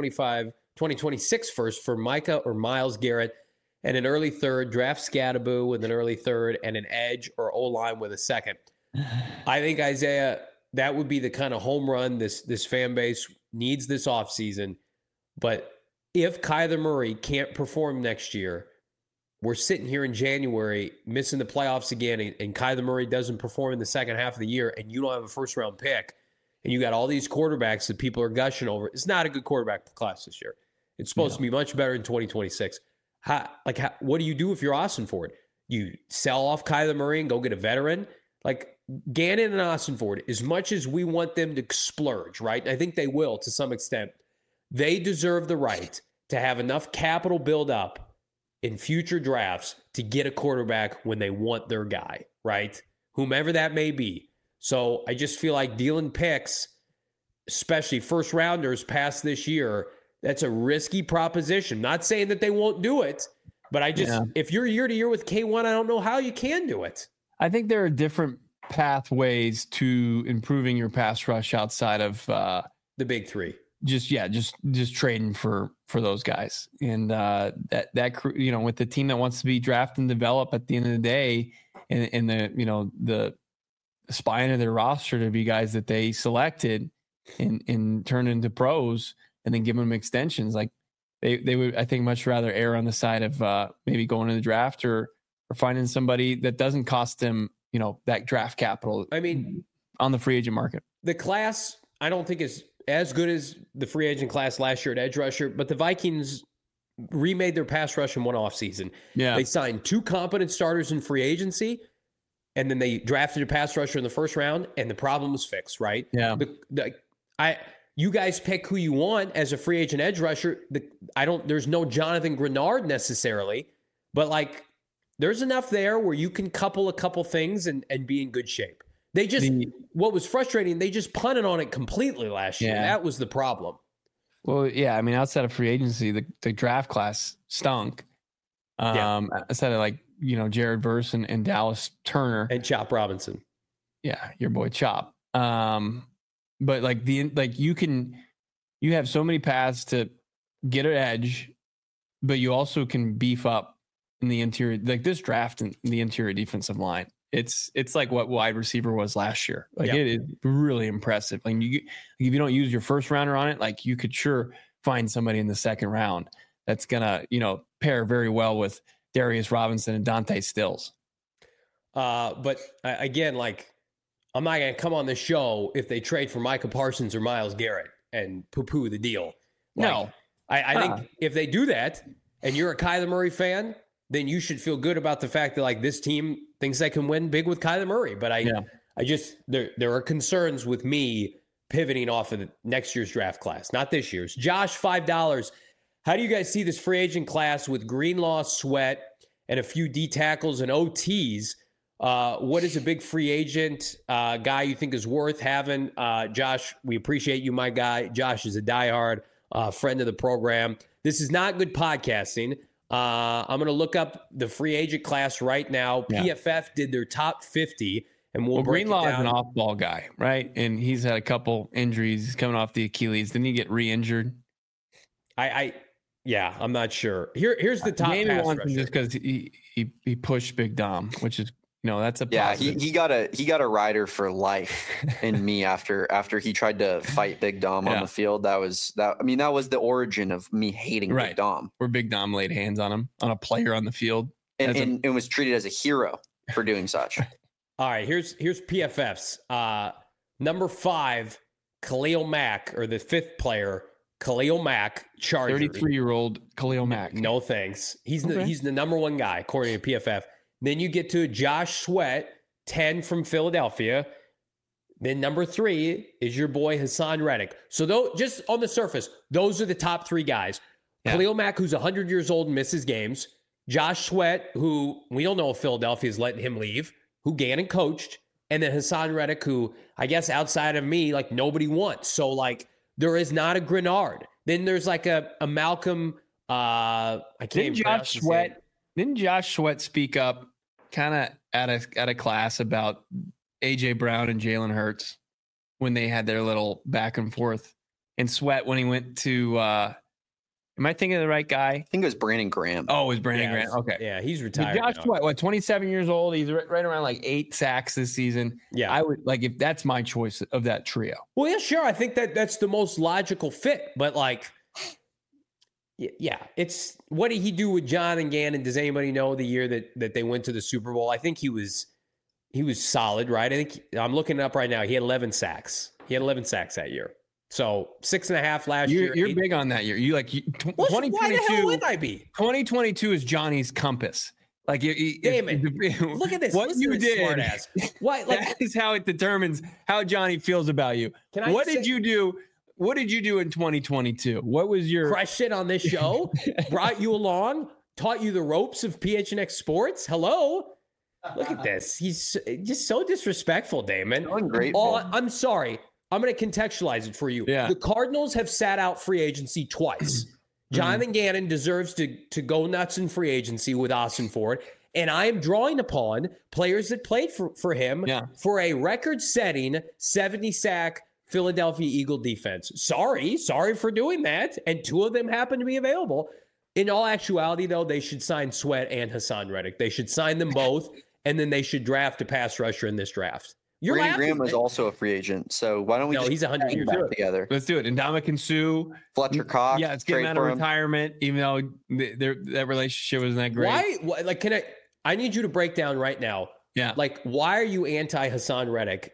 2026 first for Micah or Myles Garrett and an early third. Draft Scadaboo with an early third and an edge or O-line with a second. I think, Isaiah, that would be the kind of home run this fan base needs this offseason. But if Kyler Murray can't perform next year, we're sitting here in January missing the playoffs again, and Kyler Murray doesn't perform in the second half of the year, and you don't have a first-round pick, and you got all these quarterbacks that people are gushing over. It's not a good quarterback class this year. It's supposed to be much better in 2026. What do you do if you're Austin Ford? You sell off Kyler Murray and go get a veteran? Like Gannon and Austin Ford, as much as we want them to splurge, right? I think they will to some extent. They deserve the right to have enough capital build up in future drafts to get a quarterback when they want their guy, right? Whomever that may be. So I just feel like dealing picks, especially first rounders past this year, that's a risky proposition. Not saying that they won't do it, but if you're year to year with K1, I don't know how you can do it. I think there are different pathways to improving your pass rush outside of the big three. Just trading for those guys, and that with the team that wants to be draft and develop at the end of the day, and the spine of their roster to be guys that they selected and turned into pros, and then give them extensions. Like they would, I think, much rather err on the side of maybe going to the draft or finding somebody that doesn't cost them that draft capital. I mean, on the free agent market, the class I don't think is as good as the free agent class last year at edge rusher, but the Vikings remade their pass rush in one offseason. Yeah. They signed 2 competent starters in free agency, and then they drafted a pass rusher in the first round, and the problem was fixed, right? Yeah. You guys pick who you want as a free agent edge rusher. There's no Jonathan Grenard necessarily, but there's enough there where you can couple a couple things and be in good shape. What was frustrating, they just punted on it completely last year. That was the problem. Well, yeah, I mean, outside of free agency, the draft class stunk. Outside of Jared Verse and Dallas Turner. And Chop Robinson. Yeah, your boy Chop. But you have so many paths to get an edge, but you also can beef up in the interior, like this draft in the interior defensive line. It's like what wide receiver was last year. It is really impressive. Like if you don't use your first rounder on it, you could sure find somebody in the second round that's gonna, pair very well with Darius Robinson and Dante Stills. But again, I'm not gonna come on the show if they trade for Micah Parsons or Myles Garrett and poo-poo the deal. No, I think if they do that and you're a Kyler Murray fan, then you should feel good about the fact that this team thinks they can win big with Kyler Murray. But there are concerns with me pivoting off of next year's draft class, not this year's. Josh, $5. How do you guys see this free agent class with Greenlaw, Sweat, and a few D tackles and OTs? What is a big free agent guy you think is worth having? Josh, we appreciate you, my guy. Josh is a diehard friend of the program. This is not good podcasting. I'm going to look up the free agent class right now. Yeah. PFF did their top 50, and we'll break Greenlaw it down. Is an off-ball guy, right? And he's had a couple injuries. He's coming off the Achilles. Didn't he get re-injured? I'm not sure. Here's the top Maybe pass wants rusher. him just because he pushed Big Dom, which is That's a Yeah, positive. he got a rider for life in me after he tried to fight Big Dom on the field. That was the origin of me hating Big Dom. Where Big Dom laid hands on him, on a player on the field, and was treated as a hero for doing such. All right, here's PFFs. Number 5, Khalil Mack, or the 5th player, Khalil Mack, Chargers. 33-year-old Khalil Mack. No thanks. He's the number 1 guy according to PFF. Then you get to Josh Sweat, 10 from Philadelphia. Then number 3 is your boy Hassan Reddick. So just on the surface, those are the top 3 guys. Yeah. Khalil Mack, who's 100 years old and misses games. Josh Sweat, who we don't know if Philadelphia is letting him leave, who Gannon coached. And then Hassan Reddick, who I guess outside of me, like nobody wants. So like there is not a Grenard. Then there's like a Malcolm. I can't. Didn't Josh Sweat speak up kind of at a class about AJ Brown and Jalen Hurts when they had their little back and forth? And Sweat, when he went to am I thinking of the right guy? I think it was Brandon Graham. Oh, it was Brandon Graham. Okay. Yeah, he's retired. Josh Sweat, 27 years old. He's right around like 8 sacks this season. Yeah. I would if that's my choice of that trio. Well, yeah, sure. I think that's the most logical fit. But yeah, it's what did he do with John and Gannon? Does anybody know the year that they went to the Super Bowl? I think he was solid, right? I think I'm looking it up right now. He had 11 sacks. He had 11 sacks that year. So 6.5 last year. You're big on that year. 2022. Why the hell would I be? 2022 is Johnny's compass. Damon, look at this. What you did, smart ass. Why? That is how it determines how Johnny feels about you. What did you do? What did you do in 2022? What was your crush it on this show? Brought you along, taught you the ropes of PHNX Sports. Hello. Look at this. He's just so disrespectful, Damon. So ungrateful. I'm sorry. I'm going to contextualize it for you. Yeah. The Cardinals have sat out free agency twice. Jonathan Gannon deserves to go nuts in free agency with Austin Ford. And I am drawing upon players that played for him for a record-setting 70-sack Philadelphia Eagle defense. Sorry for doing that. And 2 of them happen to be available. In all actuality, though, they should sign Sweat and Hassan Reddick. They should sign them both, and then they should draft a pass rusher in this draft. Brandon Graham was also a free agent, so why don't we he's 100 years old together? Let's do it. And Ndamukong Suh, Fletcher Cox. Yeah, it's getting out of retirement, even though that relationship wasn't that great. Why? I need you to break down right now. Yeah. Why are you anti Hassan Reddick?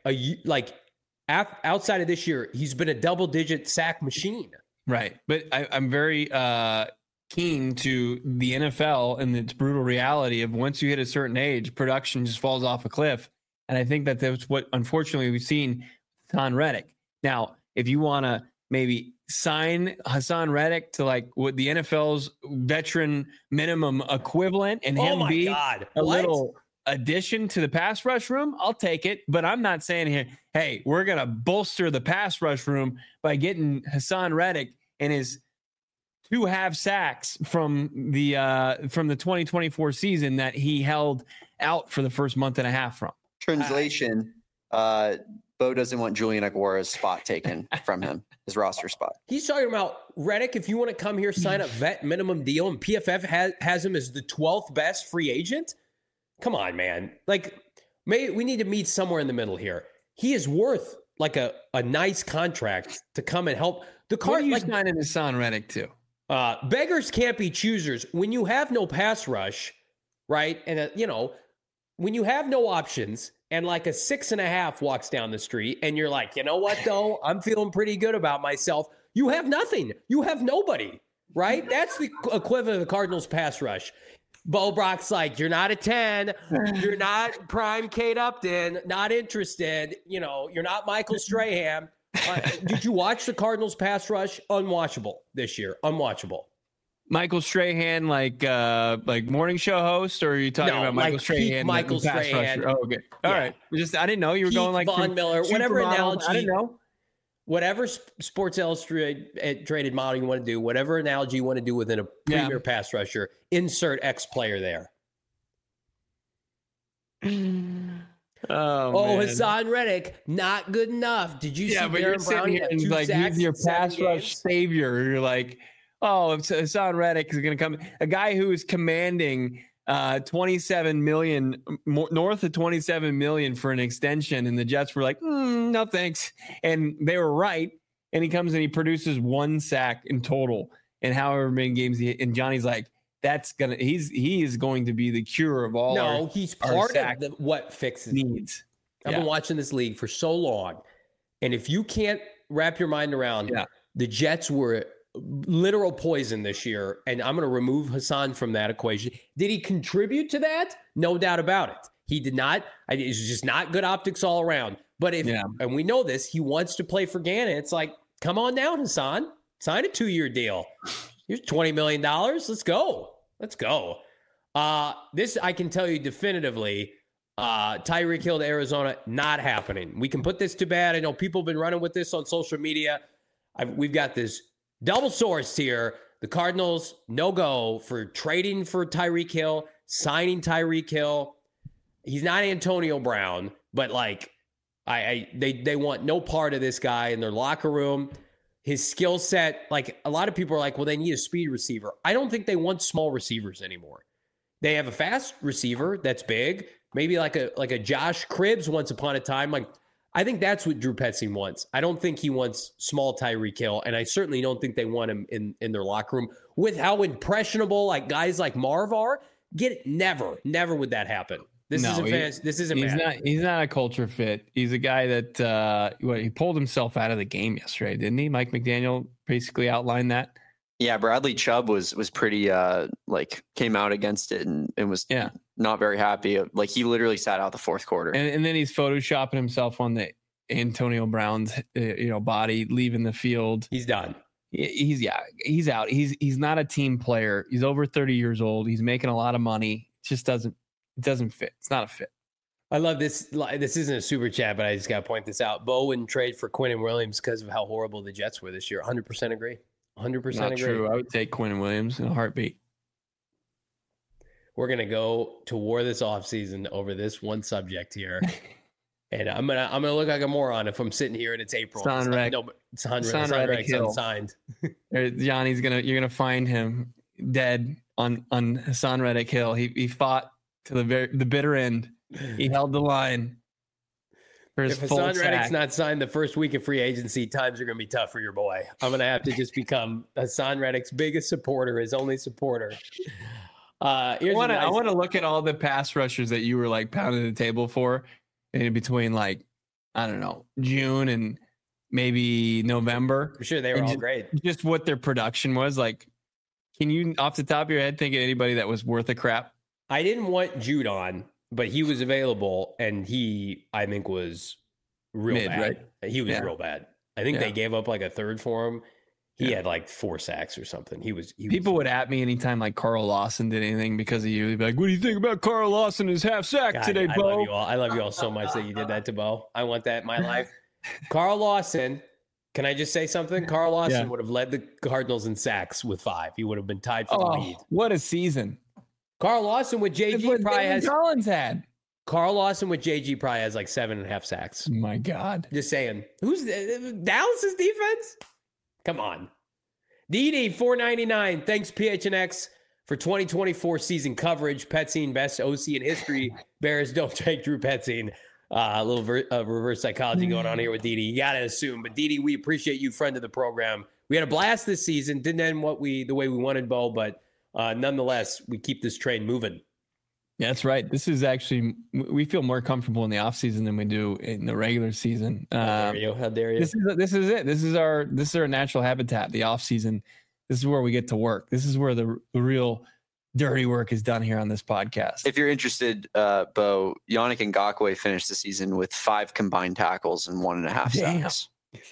Outside of this year, he's been a double-digit sack machine. Right. But I'm very keen to the NFL and its brutal reality of once you hit a certain age, production just falls off a cliff. And I think that's what, unfortunately, we've seen Hassan Reddick. Now, if you want to maybe sign Hassan Reddick to what the NFL's veteran minimum equivalent and him be a little addition to the pass rush room, I'll take it. But I'm not saying here, hey, we're going to bolster the pass rush room by getting Hassan Reddick and his 2 half sacks from the 2024 season that he held out for the first month and a half from. Translation, Bo doesn't want Julian Aguara's spot taken from him, his roster spot. He's talking about Reddick, if you want to come here, sign a vet minimum deal, and PFF has him as the 12th best free agent. Come on, man. Maybe we need to meet somewhere in the middle here. He is worth a nice contract to come and help. What are you signing Hassan Reddick to? Beggars can't be choosers. When you have no pass rush, right, and when you have no options and a 6.5 walks down the street and you're like, you know what, though? I'm feeling pretty good about myself. You have nothing. You have nobody, right? That's the equivalent of the Cardinals pass rush. Bo Brock's you're not a 10. You're not prime Kate Upton. Not interested. You're not Michael Strahan. Did you watch the Cardinals pass rush? Unwatchable this year. Unwatchable. Michael Strahan, morning show host, or are you talking about Michael Strahan? Michael Strahan. Oh, okay. All right. I didn't know you were going Von Miller, whatever analogy. I didn't know. Whatever Sports Illustrated model you want to do, whatever analogy you want to do within a premier pass rusher, insert X player there. Oh, Hassan Reddick, not good enough. Did you see Baron Browning have 2 sacks? He's your pass rush savior. You're Hassan Reddick is going to come. A guy who is commanding $27 million, north of $27 million for an extension, and the Jets were like, no thanks, and they were right. And he comes and he produces 1 sack in total in however many games and Johnny's like, he is going to be the cure of all. He's part of what fixes needs. I've been watching this league for so long, and if you can't wrap your mind around, the Jets were literal poison this year, and I'm going to remove Hassan from that equation. Did he contribute to that? No doubt about it. He did not. It's just not good optics all around. But and we know this, he wants to play for Gannon. It's like, come on down, Hassan. Sign a 2-year deal. Here's $20 million. Let's go. This I can tell you definitively. Tyreek Hill to Arizona, not happening. We can put this to bed. I know people have been running with this on social media. We've got this double source here. The Cardinals, no go for trading for Tyreek Hill, signing Tyreek Hill. He's not Antonio Brown, but like they want no part of this guy in their locker room. His skill set, like a lot of people are like, well, they need a speed receiver. I don't think they want small receivers anymore. They have a fast receiver that's big, maybe like a Josh Cribbs once upon a time. Like, I think that's what Drew Petzing wants. I don't think he wants small Tyreek Hill, and I certainly don't think they want him in their locker room with how impressionable like guys like Marv are. Never would that happen. This isn't bad. He's not a culture fit. He's a guy that he pulled himself out of the game yesterday, didn't he? Mike McDaniel basically outlined that. Yeah, Bradley Chubb was pretty came out against it and was not very happy. Like he literally sat out the fourth quarter. And then he's photoshopping himself on the Antonio Brown's body leaving the field. He's done. He's out. He's not a team player. He's over 30 years old. He's making a lot of money. It just doesn't fit. It's not a fit. I love this. This isn't a super chat, but I just got to point this out. Bo wouldn't trade for Quinnen Williams because of how horrible the Jets were this year. 100% agree. 100% Not agree. True. I would take Quinnen Williams in a heartbeat. We're gonna go to war this offseason over this one subject here, and I'm gonna look like a moron if I'm sitting here and it's April. Hassan Reddick unsigned. Johnny's you're gonna find him dead on Hassan Reddick Hill. He fought to the bitter end. He held the line. If Hassan Reddick's not signed the first week of free agency, times are going to be tough for your boy. I'm going to have to just become Hassan Reddick's biggest supporter, his only supporter. I want to look at all the pass rushers that you were like pounding the table for in between, like, I don't know, June and maybe November. I'm sure they were all great. Just what their production was like. Can you, off the top of your head, think of anybody that was worth a crap? I didn't want Jude on, but he was available, and he, I think, was real bad. Right? He was real bad. I think they gave up like a third for him. He had like 4 sacks or something. People would at me anytime like Carl Lawson did anything because of you. They'd be like, "What do you think about Carl Lawson his half sack today, Bo?" I love you all so much that you did that to Bo. I want that in my life. Carl Lawson. Can I just say something? Carl Lawson would have led the Cardinals in sacks with 5. He would have been tied for the lead. What a season! Carl Lawson with JG probably has. Collins had. Carl Lawson with JG probably has like 7.5 sacks. My God. Just saying. Who's Dallas's defense? Come on. DD $4.99. Thanks PHNX for 2024 season coverage. Petzing, best OC in history. Bears don't take Drew Petzing. A little reverse psychology going on here with DD. You got to assume. But DD, we appreciate you, friend of the program. We had a blast this season. Didn't end the way we wanted, Bo, but nonetheless, we keep this train moving. Yeah, that's right. This is actually, we feel more comfortable in the offseason than we do in the regular season. How dare you? This is it. This is our natural habitat, the offseason. This is where we get to work. This is where the real dirty work is done here on this podcast. If you're interested, Bo, Yannick Ngakoue finished the season with 5 combined tackles and 1.5 sacks.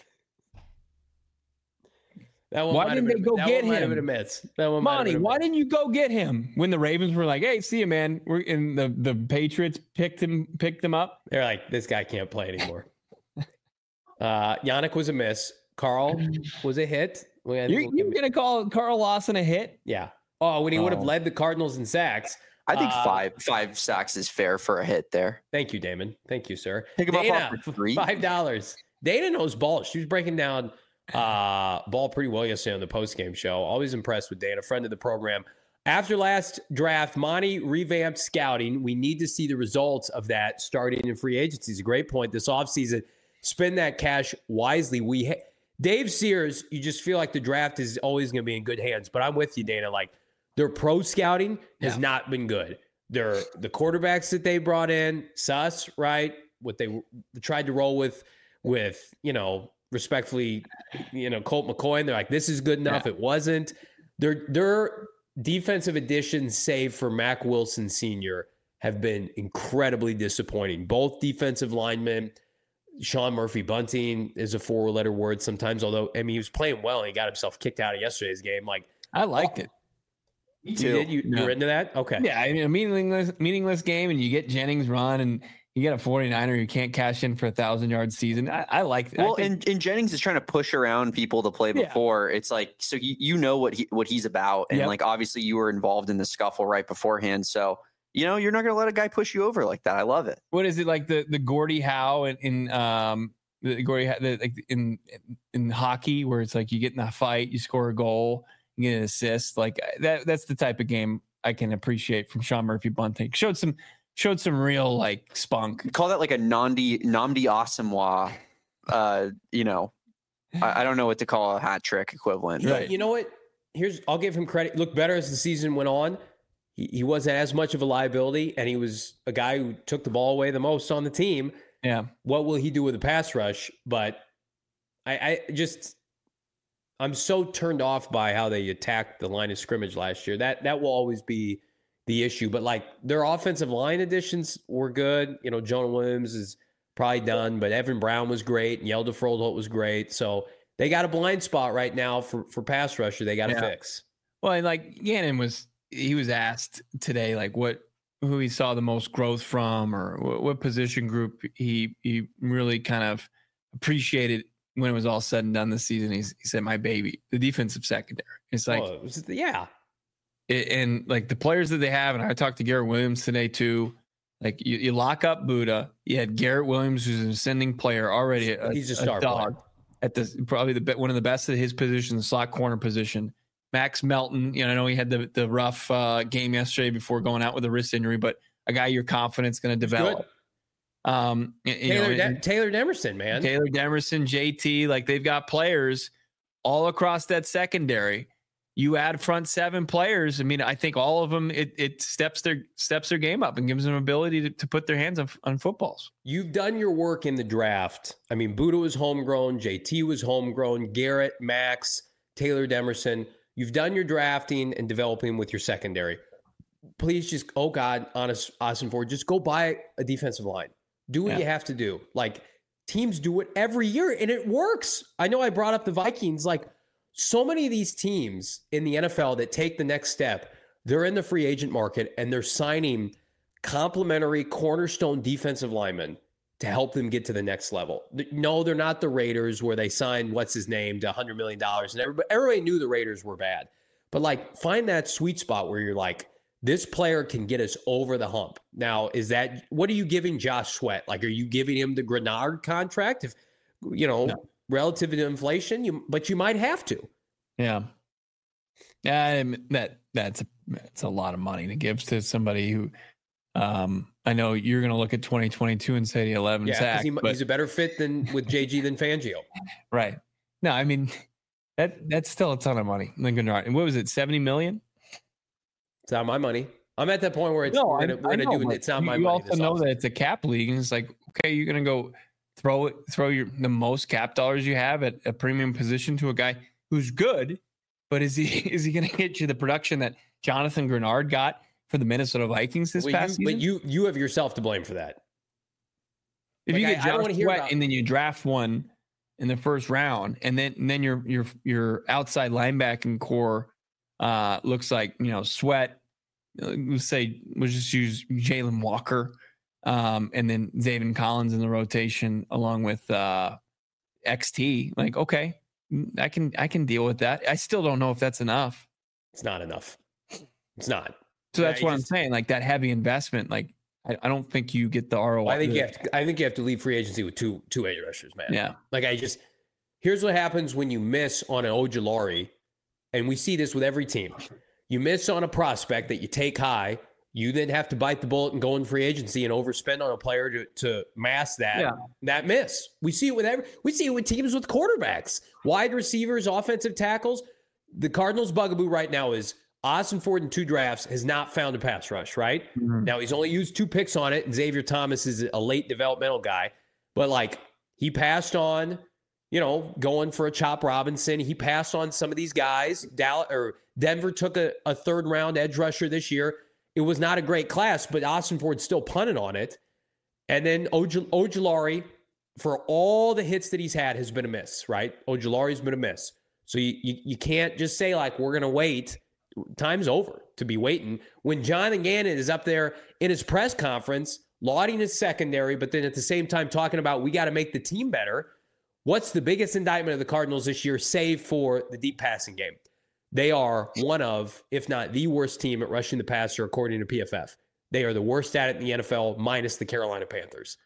Why didn't they go get him? Monty, why didn't you go get him when the Ravens were like, "Hey, see you, man"? We're in the Patriots picked him up. They're like, this guy can't play anymore. Yannick was a miss. Carl was a hit. You're gonna call Carl Lawson a hit? Yeah. Oh, when he would have led the Cardinals in sacks. I think five sacks is fair for a hit there. Thank you, Damon. Thank you, sir. Pick him up for free. $5. Dana knows ball. She was breaking down ball pretty well yesterday on the post-game show. Always impressed with Dana, friend of the program. After last draft, Monty revamped scouting. We need to see the results of that starting in free agency. It's a great point. This offseason, spend that cash wisely. Dave Sears, you just feel like the draft is always going to be in good hands. But I'm with you, Dana. Like, their pro scouting has not been good. The quarterbacks that they brought in, Suss, right? What they tried to roll with, respectfully, Colt McCoy. And they're like, this is good enough. Yeah. It wasn't. Their defensive additions, save for Mack Wilson Sr., have been incredibly disappointing. Both defensive linemen. Sean Murphy-Bunting is a four-letter word sometimes, although, he was playing well and he got himself kicked out of yesterday's game. Like, I liked it. You did? You're into that? Okay. Yeah, a meaningless game, and you get Jennings run, and you get a 49er who can't cash in for 1,000-yard season. I like that. Well, and Jennings is trying to push around people to play before. Yeah. It's like, so you know what he's about. And like, obviously you were involved in the scuffle right beforehand. So, you're not going to let a guy push you over like that. I love it. What is it, like the Gordie Howe in hockey, where it's like you get in a fight, you score a goal, you get an assist, like that's the type of game I can appreciate from Sean Murphy-Bunting. Showed some real like spunk. Call that like a Namdi Asamoah. I don't know what to call a hat trick equivalent. Right. You know what? I'll give him credit. Looked better as the season went on. He wasn't as much of a liability, and he was a guy who took the ball away the most on the team. Yeah. What will he do with the pass rush? But I'm so turned off by how they attacked the line of scrimmage last year. That will always be the issue. But like, their offensive line additions were good. Jonah Williams is probably done, but Evan Brown was great, and Yelda Froholt was great. So they got a blind spot right now for pass rusher they got to fix. Well, and like Gannon was asked today, like who he saw the most growth from, or what position group he really kind of appreciated when it was all said and done this season. He said, my baby, the defensive secondary. It's like, and like the players that they have, and I talked to Garrett Williams today too. Like you lock up Buddha. You had Garrett Williams, who's an ascending player already. He's a star dog at probably one of the best at his position, the slot corner position. Max Melton, I know he had the rough game yesterday before going out with a wrist injury, but a guy you're confident is going to develop. Taylor Demerson, man. Taylor Demerson, JT, like they've got players all across that secondary. You add front seven players. I think all of them, it steps their game up and gives them ability to put their hands on footballs. You've done your work in the draft. Buddha was homegrown. JT was homegrown. Garrett, Max, Taylor Demerson. You've done your drafting and developing with your secondary. Please just, Austin Ford, just go buy a defensive line. Do what you have to do. Like, teams do it every year, and it works. I know I brought up the Vikings. Like, so many of these teams in the NFL that take the next step, they're in the free agent market, and they're signing complimentary cornerstone defensive linemen to help them get to the next level. No, they're not the Raiders where they signed what's-his-name to $100 million. And everybody knew the Raiders were bad. But, like, find that sweet spot where you're like, this player can get us over the hump. Now, what are you giving Josh Sweat? Like, are you giving him the Grenard contract? If, no. Relative to inflation, but you might have to. Yeah. That's a lot of money to give to somebody who, I know you're going to look at 2022 and say the 11 sack. He's a better fit with JG than Fangio. Right. No, that's still a ton of money. And what was it, 70 million? It's not my money. I'm at that point where it's it's not my money. You also know that it's a cap league, and it's like, okay, you're going to go throw the most cap dollars you have at a premium position to a guy who's good, but is he going to get you the production that Jonathan Grenard got for the Minnesota Vikings this past season? But you have yourself to blame for that. If you get Josh Sweat and then you draft one in the first round, and then your outside linebacking core looks like Sweat. We'll just use Jalen Walker, and then Zaven Collins in the rotation along with XT. Like, okay, I can deal with that. I still don't know if that's enough. It's not enough. It's not. So that's what I'm saying. Like that heavy investment, like I don't think you get the ROI. I think you have to leave free agency with two edge rushers, man. Yeah. Like here's what happens when you miss on an Ojulari, and we see this with every team. You miss on a prospect that you take high. You then have to bite the bullet and go in free agency and overspend on a player to mask that miss. We see it with teams with quarterbacks, wide receivers, offensive tackles. The Cardinals' bugaboo right now is Austin Ford in 2 drafts has not found a pass rush, right? Mm-hmm. Now he's only used 2 picks on it, and Xavier Thomas is a late developmental guy, but like he passed on, going for a Chop Robinson. He passed on some of these guys. Denver took a 3rd round edge rusher this year. It was not a great class, but Austin Ford still punted on it. And then Ojulari, for all the hits that he's had, has been a miss, right? Ojulari's been a miss. So you can't just say, like, we're going to wait. Time's over to be waiting. When Jonathan Gannon is up there in his press conference, lauding his secondary, but then at the same time talking about we got to make the team better, what's the biggest indictment of the Cardinals this year, save for the deep passing game? They are one of, if not the worst team at rushing the passer, according to PFF. They are the worst at it in the NFL, minus the Carolina Panthers.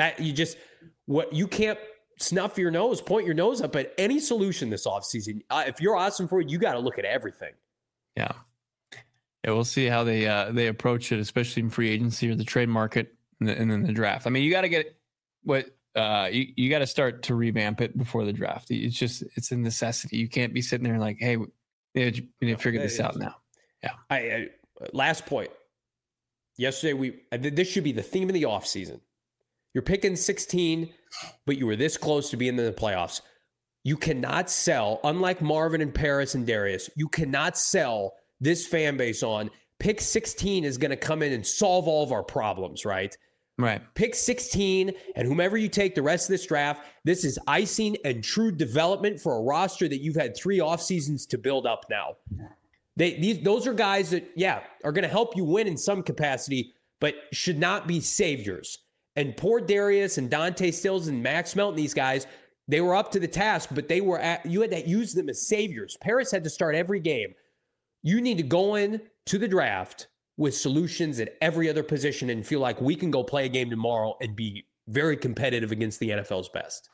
You can't snuff your nose, point your nose up at any solution this offseason. If you're Austin Ford, you got to look at everything. Yeah, we'll see how they approach it, especially in free agency or the trade market, and then the draft. I mean, you got to get you got to start to revamp it before the draft. It's a necessity. You can't be sitting there like, hey, we need to figure this out now. Yeah. Last point. Yesterday, this should be the theme of the offseason. You're picking 16, but you were this close to being in the playoffs. You cannot sell, unlike Marvin and Paris and Darius, you cannot sell this fan base on pick 16 is going to come in and solve all of our problems, right? Right. Pick 16, and whomever you take the rest of this draft, this is icing and true development for a roster that you've had 3 off seasons to build up now. Those are guys that, are going to help you win in some capacity, but should not be saviors. And poor Darius and Dante Stills and Max Melton, these guys, they were up to the task, but you had to use them as saviors. Paris had to start every game. You need to go in to the draft with solutions at every other position and feel like we can go play a game tomorrow and be very competitive against the NFL's best.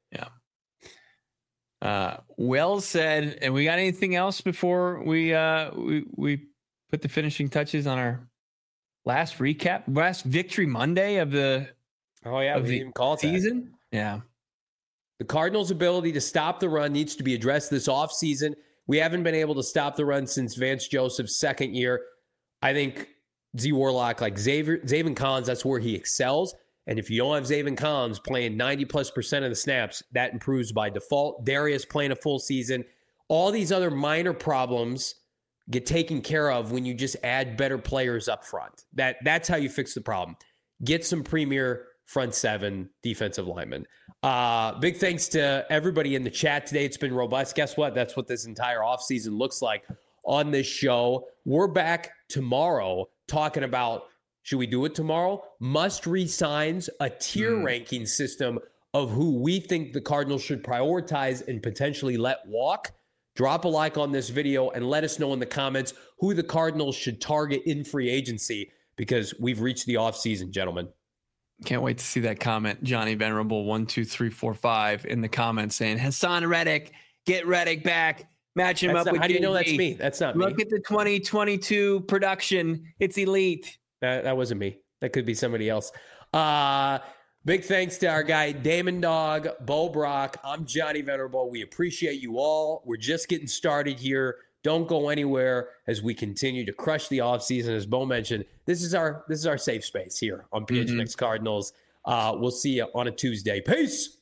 Yeah. Well said. And we got anything else before we put the finishing touches on our last victory Monday of the we didn't even call it season? That. Yeah. The Cardinals' ability to stop the run needs to be addressed this offseason. We haven't been able to stop the run since Vance Joseph's 2nd year. I think Z Warlock, like Zaven Collins, that's where he excels. And if you don't have Zaven Collins playing 90+% of the snaps, that improves by default. Darius playing a full season. All these other minor problems get taken care of when you just add better players up front. That's how you fix the problem. Get some premier front 7 defensive linemen. Big thanks to everybody in the chat today. It's been robust. Guess what? That's what this entire offseason looks like on this show. We're back tomorrow talking about, should we do it tomorrow? Must resigns, a tier ranking system of who we think the Cardinals should prioritize and potentially let walk. Drop a like on this video and let us know in the comments who the Cardinals should target in free agency, because we've reached the offseason, gentlemen. Can't wait to see that comment. Johnny Venerable 12345 in the comments saying Hassan Reddick, get Reddick back. Match him up with. How do you know that's me? That's not me. Look at the 2022 production. It's elite. That wasn't me. That could be somebody else. Big thanks to our guy, Damon Dog, Bo Brock. I'm Johnny Venerable. We appreciate you all. We're just getting started here. Don't go anywhere as we continue to crush the offseason. As Bo mentioned, this is our safe space here on PHNX Cardinals. We'll see you on a Tuesday. Peace.